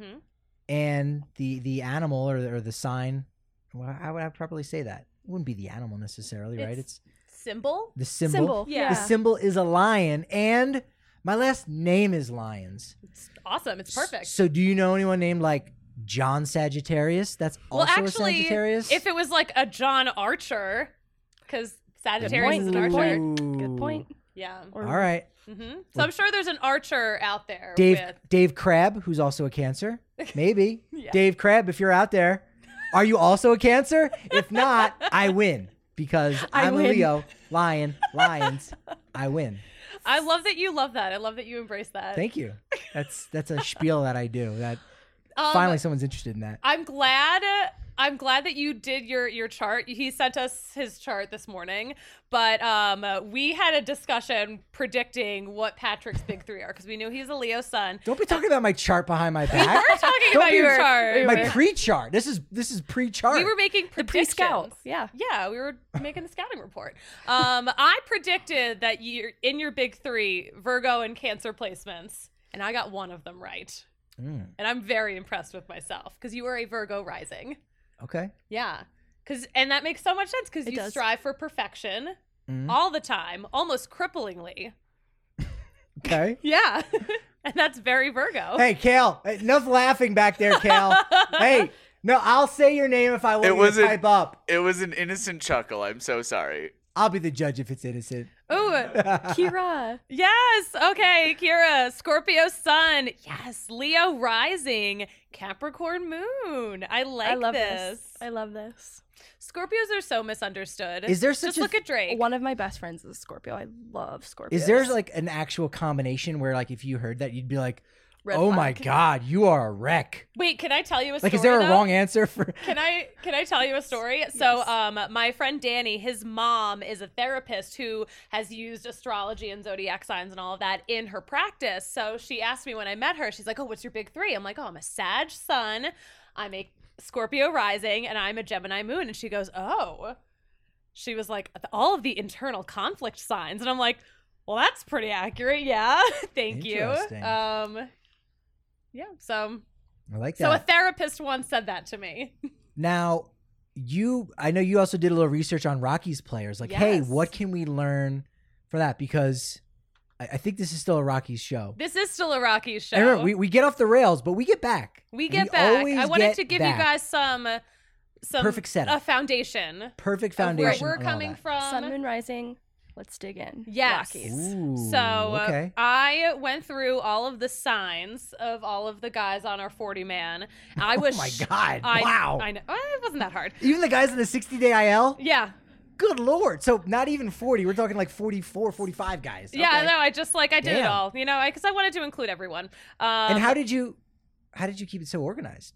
and the animal or the sign. Well, how would I properly say that? It wouldn't be the animal necessarily, right? It's symbol. The symbol. Yeah. The symbol is a lion, and my last name is Lyons. It's awesome. It's perfect. So do you know anyone named like John Sagittarius? That's also a Sagittarius. If it was like a John Archer, because Sagittarius is an Archer. Good point. Yeah. All right. So I'm sure there's an Archer out there. Dave Crabb, who's also a Cancer. Maybe. Dave Crabb, if you're out there, are you also a Cancer? If not, I win because I'm a Leo, Lions. I win. I love that you love that. I love that you embrace that. Thank you. That's a spiel that I do. That finally someone's interested in that. I'm glad that you did your chart. He sent us his chart this morning, but we had a discussion predicting what Patrick's big three are because we knew he's a Leo sun. Don't be talking about my chart behind my back. We were talking about your chart. My pre-chart. This is pre-chart. We were making predictions. Pre-scout. Yeah, we were making the scouting report. I predicted that you're in your big three, Virgo and Cancer placements, and I got one of them right. And I'm very impressed with myself because you are a Virgo rising. Okay. Yeah. And that makes so much sense because you strive for perfection all the time, almost cripplingly. Okay. Yeah. And that's very Virgo. Hey, Kale, enough laughing back there, Kale. Hey, no, I'll say your name if I want you to pipe up. It was an innocent chuckle. I'm so sorry. I'll be the judge if it's innocent. Ooh, Kira. Yes. Okay, Kira. Scorpio sun. Yes. Leo rising. Capricorn moon. I love this. I love this. Scorpios are so misunderstood. Is there just look at Drake? One of my best friends is a Scorpio. I love Scorpios. Is there like an actual combination where like if you heard that you'd be like, Red Oh my flag. God, you are a wreck. Wait, can I tell you a story? Like, is there a though? wrong answer for? Can I tell you a story? Yes. So, my friend Danny, his mom is a therapist who has used astrology and zodiac signs and all of that in her practice. So she asked me when I met her, she's like, "Oh, what's your big three?" I'm like, "Oh, I'm a Sag Sun, I'm a Scorpio rising, and I'm a Gemini moon." And she goes, "Oh." She was like, "All of the internal conflict signs," and I'm like, "Well, that's pretty accurate, yeah." Thank you. Interesting. Yeah. So I like a that. therapist once said that to me. Now, I know you also did a little research on Rockies players. Like, hey, Yes. what can we learn for that? Because I think this is still a Rockies show. This is still a Rockies show. And remember, we get off the rails, but we get back. We get back. always I wanted get to give back. you guys some Perfect setup. a foundation. Perfect of where foundation. we're and all coming that. from. Sun, moon, rising. Let's dig in. Yes. Rockies. Ooh, So okay. I went through all of the signs of all of the guys on our 40 man. I was Oh my God! I, wow. I know it wasn't that hard. Even the guys in the 60-day IL. Yeah. Good Lord. So not even 40. We're talking like 44, 45 guys. Yeah. Okay. No, I just I did it Damn. all. You know, because I wanted to include everyone. And how did you keep it so organized?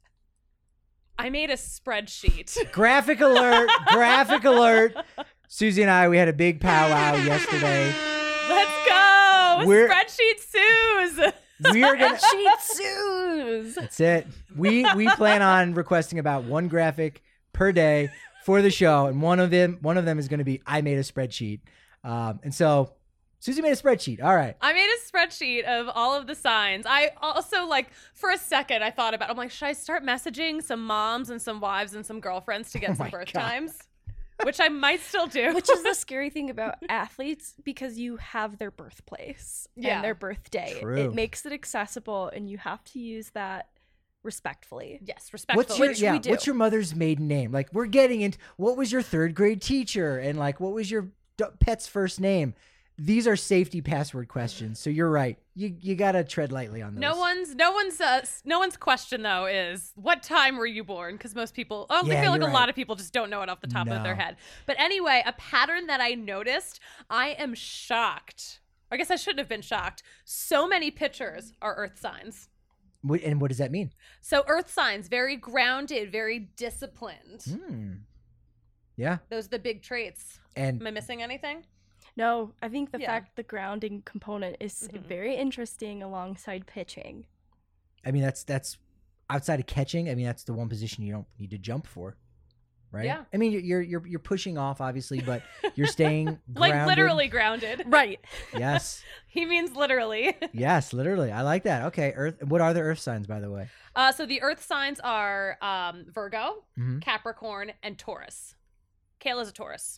I made a spreadsheet. Graphic alert! Graphic alert! Susie and I, we had a big powwow yesterday. Let's go. We're- Spreadsheet Suze. We are gonna. Sheet Suze. That's it. We plan on requesting about one graphic per day for the show, and one of them is going to be I made a spreadsheet. And so Susie made a spreadsheet. All right. I made a spreadsheet of all of the signs. I also, for a second, I thought about, I'm like, should I start messaging some moms and some wives and some girlfriends to get Oh some my birth God. times? Which I might still do. Which is the scary thing about athletes, because you have their birthplace Yeah. and their birthday. True. It makes it accessible, and you have to use that respectfully. Yes, respectfully. What's your mother's maiden name? Like, we're getting into what was your third grade teacher, and like what was your pet's first name? These are safety password questions. So you're right. You gotta tread lightly on those. No one's question though is what time were you born? Because most people, I Yeah, feel like you're a lot right. of people just don't know it off the top of their No. head. But anyway, a pattern that I noticed, I am shocked. I guess I shouldn't have been shocked. So many pitchers are earth signs. And what does that mean? So earth signs, very grounded, very disciplined. Yeah. Those are the big traits. And Am I missing anything? No, I think the Yeah. fact the grounding component is very interesting alongside pitching. I mean, that's outside of catching. I mean, that's the one position you don't need to jump for, right? Yeah. I mean, you're pushing off, obviously, but you're staying Like grounded. literally grounded. Right. Yes. He means literally. Yes, literally. I like that. Okay, Earth. What are the Earth signs, by the way? So the earth signs are Virgo, Mhm. Capricorn, and Taurus. Kayla's a Taurus.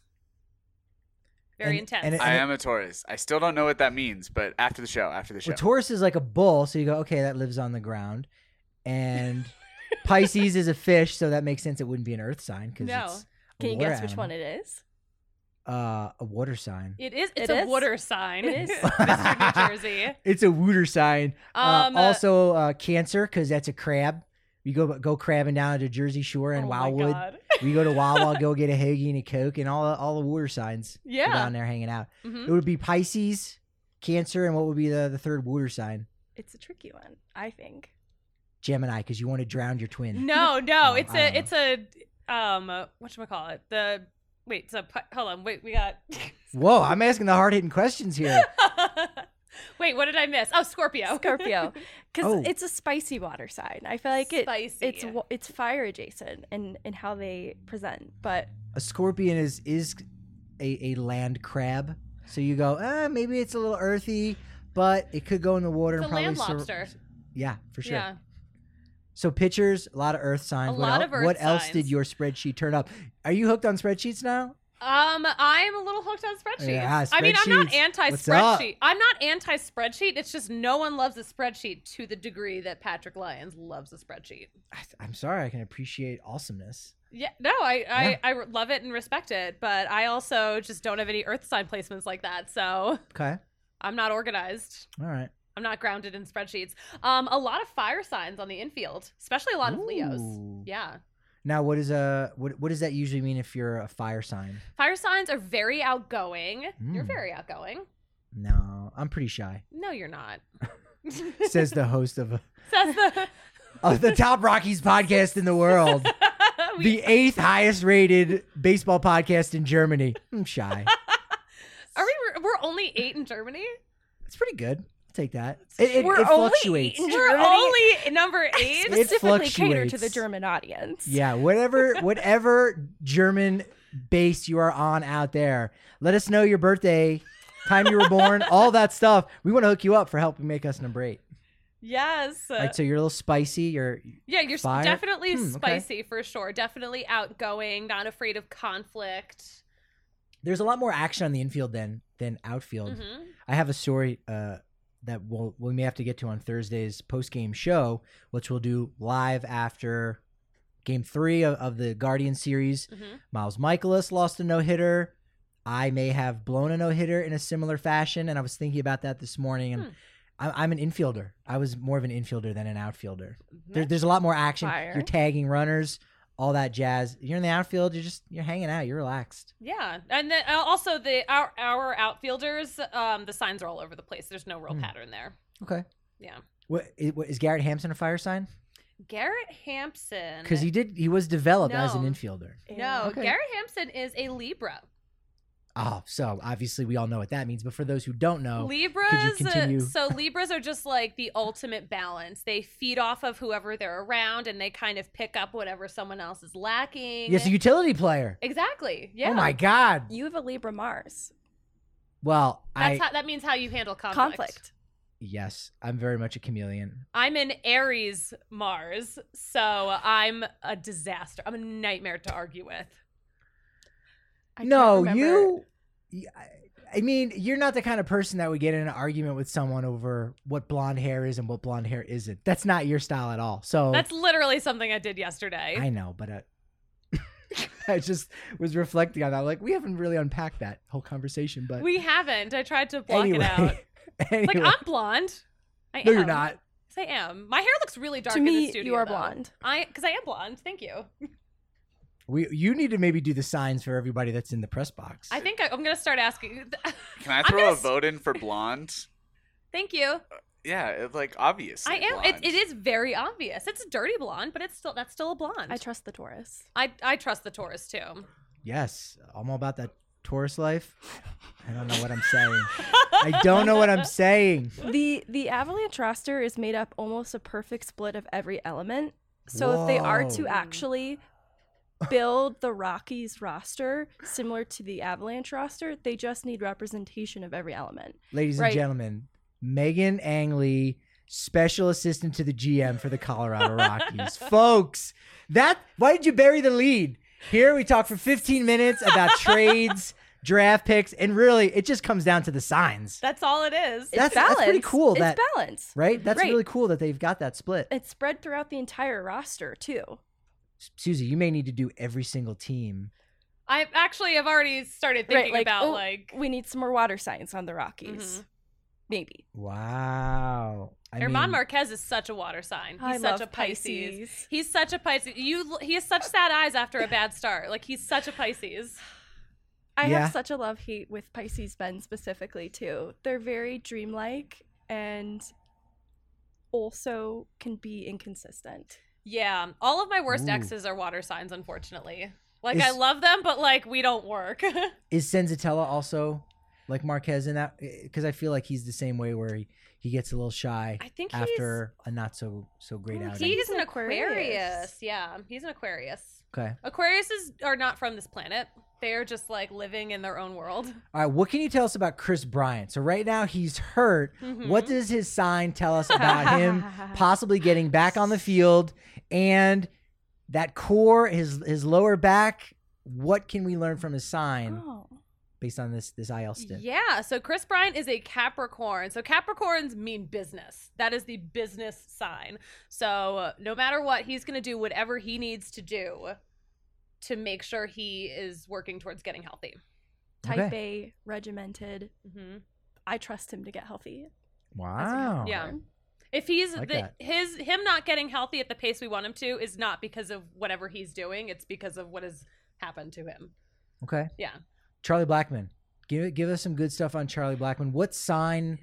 Very And- intense. and it- I am a Taurus. I still don't know what that means, but after the show. Well, Taurus is like a bull, so you go, okay, that lives on the ground, and Pisces is a fish, so that makes sense. It wouldn't be an Earth sign because No. it's a Can you water guess which animal. one it is? A water sign. It's It a is? water sign. It is. Mr. New Jersey. It's a water sign. Also, Cancer, because that's a crab. We go crabbing down to Jersey Shore and Oh my Wildwood. God. We go to Wawa, go get a hoagie and a Coke, and all the water signs are Yeah. down there hanging out. Mhm. It would be Pisces, Cancer, and what would be the third water sign? It's a tricky one, I think. Gemini, because you want to drown your twin. No, Oh, it's I don't a whatchamacallit? Hold on, wait, we got Whoa, I'm asking the hard-hitting questions here. Wait, what did I miss? Oh, Scorpio. Scorpio, because Oh. it's a spicy water sign. I feel like Spicy. it's fire adjacent in how they present, but A scorpion is a land crab. So you go, maybe it's a little earthy, but it could go in the water It's and a probably land lobster. Yeah, for sure. Yeah. So pitchers, a lot of earth signs. A lot of earth What else signs. did your spreadsheet turn up? Are you hooked on spreadsheets now? I'm a little hooked on spreadsheets. Yeah, I mean, I'm not spreadsheets. What's up? anti-spreadsheet. I'm not anti-spreadsheet. It's just no one loves a spreadsheet to the degree that Patrick Lyons loves a spreadsheet. I'm sorry, I can appreciate awesomeness. Yeah, no, I love it and respect it, but I also just don't have any earth sign placements like that, so Okay, I'm not organized. all right. I'm not grounded in spreadsheets. A lot of fire signs on the infield, especially a lot of Leos. Ooh. Yeah. Now, what does that usually mean if you're a fire sign? Fire signs are very outgoing. You're Mm. very outgoing. No, I'm pretty shy. No, you're not. says the host of Says the the top Rockies podcast in the world. The 8th highest rated baseball podcast in Germany. I'm shy. We're only 8 in Germany? It's pretty good. I'll take that. It We're only fluctuates. in We're Germany? only number 8? It Specifically cater to the fluctuates. German audience. Yeah, whatever German base you are on out there, let us know your birthday, time you were born, all that stuff. We want to hook you up for helping make us number 8. Yes. All right, so you're a little spicy. You're fire? Definitely okay. spicy for sure. Definitely outgoing, not afraid of conflict. There's a lot more action on the infield than outfield. Mm-hmm. I have a story that we may have to get to on Thursday's post-game show, which we'll do live after Game 3 of the Guardian series. Mm-hmm. Miles Michaelis lost a no-hitter. I may have blown a no-hitter in a similar fashion, and I was thinking about that this morning, and I'm an infielder. I was more of an infielder than an outfielder. There's a lot more action. Fire. You're tagging runners, all that jazz. You're in the outfield. You're hanging out. You're relaxed. Yeah, and then also our outfielders, the signs are all over the place. There's no real pattern there. Okay. Yeah. What is Garrett Hampson a fire sign? Garrett Hampson. Because he was developed as an No. infielder. No, Okay. Garrett Hampson is a Libra. Oh, so obviously we all know what that means. But for those who don't know, Libras, could you continue? So Libras are just like the ultimate balance. They feed off of whoever they're around, and they kind of pick up whatever someone else is lacking. Yes, a utility player. Exactly. Yeah. Oh my God. You have a Libra Mars. Well, That means how you handle conflict. Yes, I'm very much a chameleon. I'm an Aries Mars, so I'm a disaster. I'm a nightmare to argue with. I can't No, remember. I mean, you're not the kind of person that would get in an argument with someone over what blonde hair is and what blonde hair isn't. That's not your style at all. So That's literally something I did yesterday. I know, but I just was reflecting on that. Like, we haven't really unpacked that whole conversation, but We haven't. I tried to block anyway. it out. Anyway. Like, I'm blonde. I No, am. you're not. Yes, I am. My hair looks really dark To in the me, studio. you are though. blonde. Because I am blonde. Thank you. You need to maybe do the signs for everybody that's in the press box. I think I'm going to start asking. Can I throw a vote in for blonde? Thank you. Yeah, obviously. I am. Blonde. It is very obvious. It's a dirty blonde, but that's still a blonde. I trust the Taurus. I trust the Taurus too. Yes, I'm all about that Taurus life. I don't know what I'm saying. I don't know what I'm saying. The Avalanche roster is made up almost a perfect split of every element. So if they are to Whoa. actually build the Rockies roster similar to the Avalanche roster, they just need representation of every element. Ladies and Right. gentlemen, Megan Angley, special assistant to the GM for the Colorado Rockies. Folks, why did you bury the lead? Here we talk for 15 minutes about trades, draft picks, and really it just comes down to the signs. That's all it is. That's Balance. pretty cool. It's That balance. right? That's Right. really cool that they've got that split. It's spread throughout the entire roster too. Susie, you may need to do every single team. I've already started thinking about we need some more water signs on the Rockies. Mhm. Maybe. Wow. Herman Marquez is such a water sign. He's I such love a Pisces. Pisces. He's such a Pisces. He has such sad eyes after a bad start. Like, he's such a Pisces. I Yeah. have such a love-hate with Pisces men specifically too. They're very dreamlike and also can be inconsistent. Yeah, all of my worst Ooh. exes are water signs, unfortunately. Like, Is- I love them, but like, we don't work. Is Senzatella also like Marquez in that? Because I feel like he's the same way where he gets a little shy I think after a not so great Oh, outing. he's an an Aquarius. Aquarius. Yeah, he's an Aquarius. Okay. Aquariuses are not from this planet. They're just like living in their own world. All right. What can you tell us about Chris Bryant? So right now he's hurt. Mhm. What does his sign tell us about him possibly getting back on the field and that core, his lower back? What can we learn from his sign Oh. based on this IL stint? Yeah, so Chris Bryant is a Capricorn. So Capricorns mean business. That is the business sign. So no matter what, he's going to do whatever he needs to do to make sure he is working towards getting healthy. Type Okay. A, regimented. Mm-hmm. I trust him to get healthy. Wow. Yeah. If he's Like the, that. him not getting healthy at the pace we want him to is not because of whatever he's doing. It's because of what has happened to him. Okay. Yeah. Charlie Blackmon. Give us some good stuff on Charlie Blackmon. What sign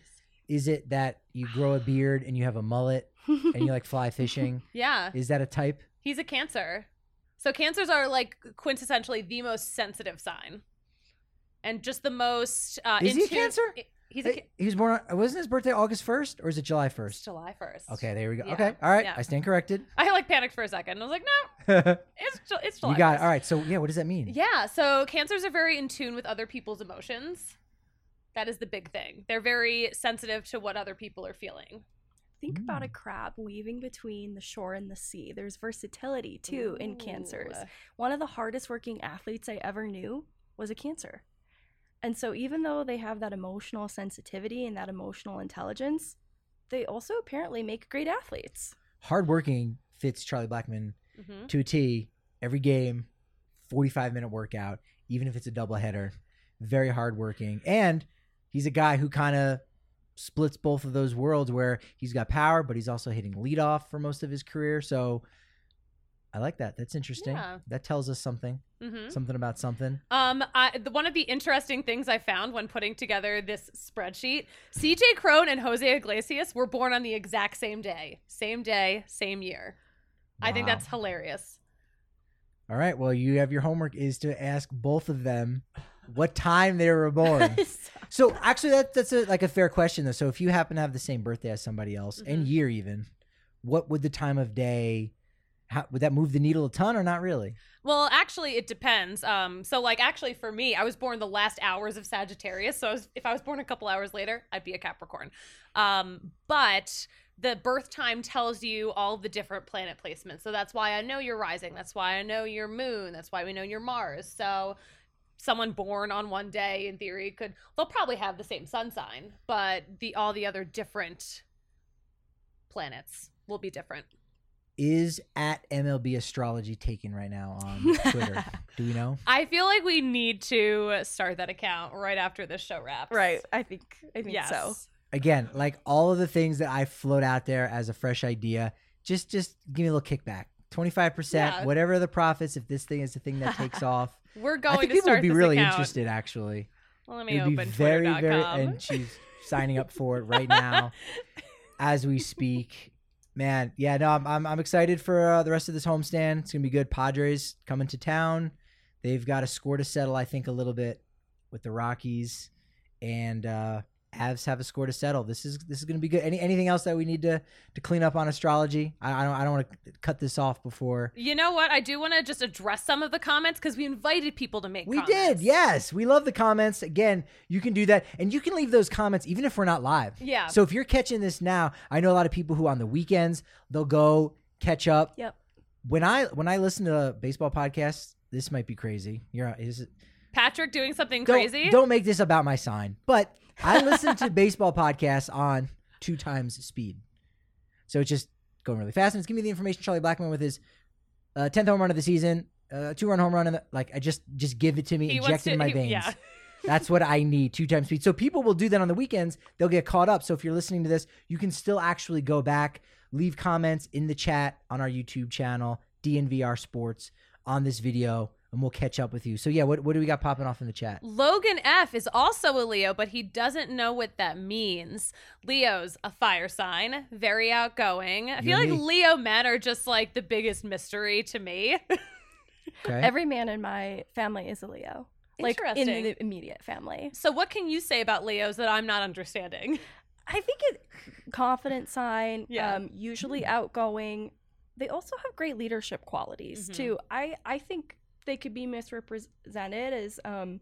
is it that you grow a beard and you have a mullet and you like fly fishing? Yeah. Is that a type? He's a Cancer. So Cancers are like quintessentially the most sensitive sign. And just the most Is he a Cancer? He was born on, wasn't his birthday August 1st or is it July 1st? It's July 1st. Okay, there we go. Yeah. Okay, all right. Yeah. I stand corrected. I like panicked for a second. I was like, no, it's July. You got 1st. it. All right. So yeah, what does that mean? Yeah, so Cancers are very in tune with other people's emotions. That is the big thing. They're very sensitive to what other people are feeling. Think about a crab weaving between the shore and the sea. There's versatility too in Cancers. One of the hardest working athletes I ever knew was a Cancer. And so even though they have that emotional sensitivity and that emotional intelligence, they also apparently make great athletes. Hardworking fits Charlie Blackmon to a T. Every game, 45-minute workout, even if it's a doubleheader. Very hardworking. And he's a guy who kind of splits both of those worlds where he's got power, but he's also hitting leadoff for most of his career. So I like that. That's interesting. Yeah. That tells us something. Something about something. One of the interesting things I found when putting together this spreadsheet, CJ Cron and Jose Iglesias were born on the exact same day, same year. Wow. I think that's hilarious. All right. Well, you have your homework is to ask both of them what time they were born. So actually, that's a fair question though. So if you happen to have the same birthday as somebody else and year even, what would the time of day? Would that move the needle a ton or not really? Well, actually, it depends. So like actually for me, I was born the last hours of Sagittarius. So if I was born a couple hours later, I'd be a Capricorn. But the birth time tells you all the different planet placements. So that's why I know your rising. That's why I know your moon. That's why we know your Mars. So someone born on one day, in theory, they'll probably have the same sun sign, but all the other different planets will be different. Is at MLB Astrology taken right now on Twitter? Do we know? I feel like we need to start that account right after this show wraps. Right. I think yes. so. Again, like all of the things that I float out there as a fresh idea, just give me a little kickback. 25%, whatever the profits, if this thing is the thing that takes off. We're going I think to people start would be this really account. Interested, actually. Well, let me It'd open be very, Twitter.com. and she's signing up for it right now as we speak. Man, yeah, no, I'm excited for the rest of this homestand. It's gonna be good. Padres coming to town. They've got a score to settle, I think, a little bit with the Rockies, and Avs have a score to settle. This is gonna be good. Anything else that we need to clean up on astrology? I don't want to cut this off before. You know what? I do want to just address some of the comments because we invited people to make comments. We did, yes. We love the comments. Again, you can do that. And you can leave those comments even if we're not live. Yeah. So if you're catching this now, I know a lot of people who on the weekends, they'll go catch up. Yep. When I listen to baseball podcasts, this might be crazy. Patrick doing something crazy? Don't make this about my sign. But I listen to baseball podcasts on 2 times speed. So it's just going really fast. And it's giving me the information. Charlie Blackmon with his 10th home run of the season, 2-run home run. I just give it to me, inject it in my veins. Yeah. That's what I need, 2 times speed. So people will do that on the weekends. They'll get caught up. So if you're listening to this, you can still actually go back, leave comments in the chat on our YouTube channel, DNVR Sports, on this video, and we'll catch up with you. So yeah, what do we got popping off in the chat? Logan F is also a Leo, but he doesn't know what that means. Leo's a fire sign, very outgoing. I feel like Leo men are just like the biggest mystery to me. Okay. Every man in my family is a Leo. Like in the immediate family. So what can you say about Leos that I'm not understanding? I think confident sign, usually outgoing. They also have great leadership qualities too. I think they could be misrepresented as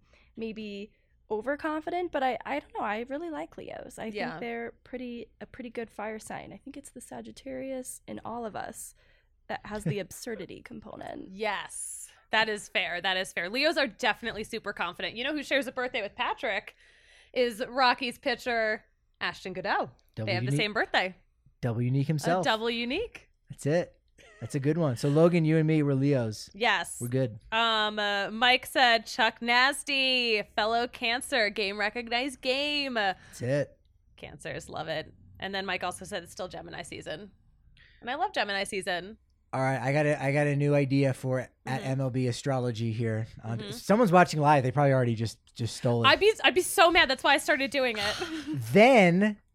maybe overconfident, but I don't know. I really like Leos. I think they're a pretty good fire sign. I think it's the Sagittarius in all of us that has the absurdity component. Yes, that is fair. That is fair. Leos are definitely super confident. You know who shares a birthday with Patrick is Rockies pitcher Ashton Goudeau. They have the same birthday. Double Unique himself. Double Unique. That's it. That's a good one. So Logan, you and me, we're Leos. Yes. We're good. Mike said Chuck Nasty, fellow Cancer, game recognized game. That's it. Cancers love it. And then Mike also said it's still Gemini season. And I love Gemini season. All right, I got a new idea for at MLB Astrology here. Someone's watching live. They probably already just stole it. I'd be so mad. That's why I started doing it. Then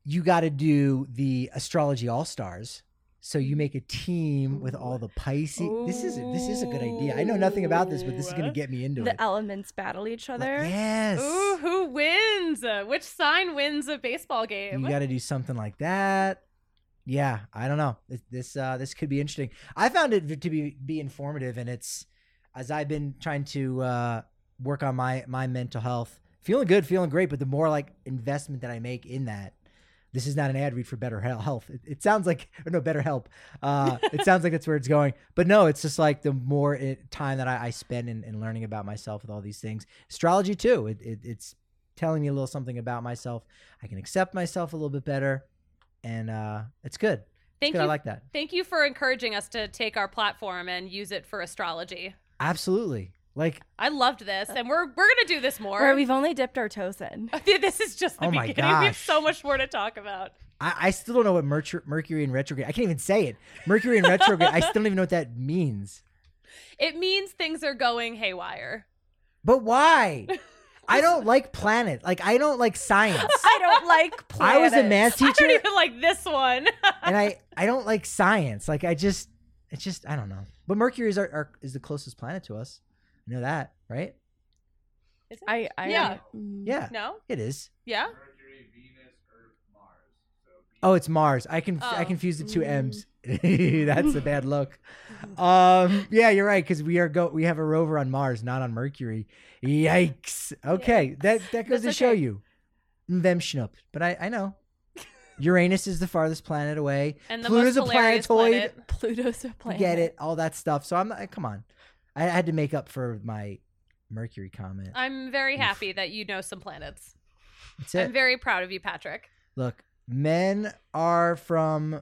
you got to do the Astrology All-Stars. So you make a team with all the Pisces. This is a good idea. I know nothing about this, but this is going to get me into it. The elements battle each other. Yes. Ooh, who wins? Which sign wins a baseball game? You got to do something like that. Yeah, I don't know. This could be interesting. I found it to be informative, and it's as I've been trying to work on my mental health, feeling good, feeling great. But the more like investment that I make in that. This is not an ad read for Better Health. It sounds like, or no, Better Help. It sounds like that's where it's going. But no, it's just like the more time that I spend in learning about myself with all these things. Astrology too. It's telling me a little something about myself. I can accept myself a little bit better. And it's good. Thank you. I like that. Thank you for encouraging us to take our platform and use it for astrology. Absolutely. Like I loved this, and we're gonna do this more. Where we've only dipped our toes in. This is just the my beginning. We have gosh. so much more to talk about. I still don't know what Mercury in retrograde. I can't even say it. Mercury in retrograde. I still don't even know what that means. It means things are going haywire. But why? I don't like planet. Like I don't like science. I don't like planets. I was a math I teacher, don't even like this one. and I don't like science. Like it's just I don't know. But Mercury is the closest planet to us. You know that, right? Is it? I Yeah. Yeah. No? It is. Yeah? Mercury, Venus, Earth, Mars. So Oh, it's Mars. I confused the two M's. That's a bad look. Yeah, you're right because we have a rover on Mars, not on Mercury. Yikes. Okay, that goes That's to show okay. you. Them schnupp. But I know. Uranus is the farthest planet away. And the Pluto's most a hilarious planetoid. planet. Pluto's a planet. Get it, all that stuff. So I'm not, come on. I had to make up for my Mercury comment. I'm very happy that you know some planets. That's it. I'm very proud of you, Patrick. Look, women are from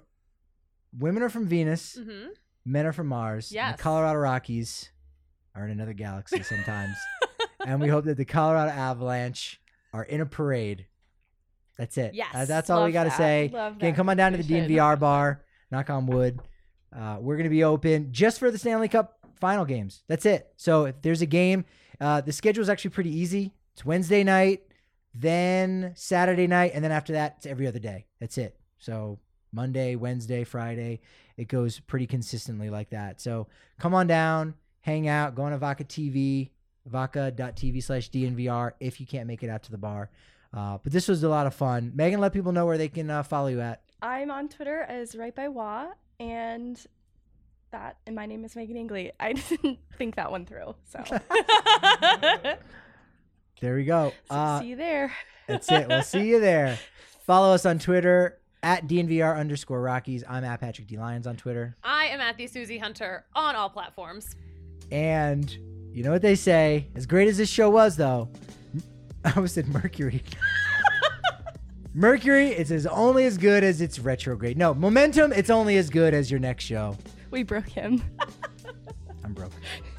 Venus. Mm-hmm. Men are from Mars. and Yes. The Colorado Rockies are in another galaxy sometimes. And we hope that the Colorado Avalanche are in a parade. That's it. Yes. That's all we Love got to that. say. Love Again, that come on down to the conclusion. DNVR bar. Knock on wood. We're going to be open just for the Stanley Cup final games. That's it. So if there's a game, the schedule is actually pretty easy. It's Wednesday night, then Saturday night, and then after that, it's every other day. That's it. So Monday, Wednesday, Friday, it goes pretty consistently like that. So come on down, hang out, go on to Vaca TV, vaca.tv/DNVR if you can't make it out to the bar. But this was a lot of fun. Megan, let people know where they can follow you at. I'm on Twitter as Right by Wah, and my name is Megan Ingley. I didn't think that one through, so There we go. see you there. That's it. We'll see you there. Follow us on Twitter at DNVR_Rockies. I'm at Patrick D. Lyons on Twitter. I am at the Susie Hunter on all platforms. And you know what they say? As great as this show was, though, I almost said Mercury. Mercury is only as good as its retrograde. No, momentum, it's only as good as your next show. We broke him. I'm broke.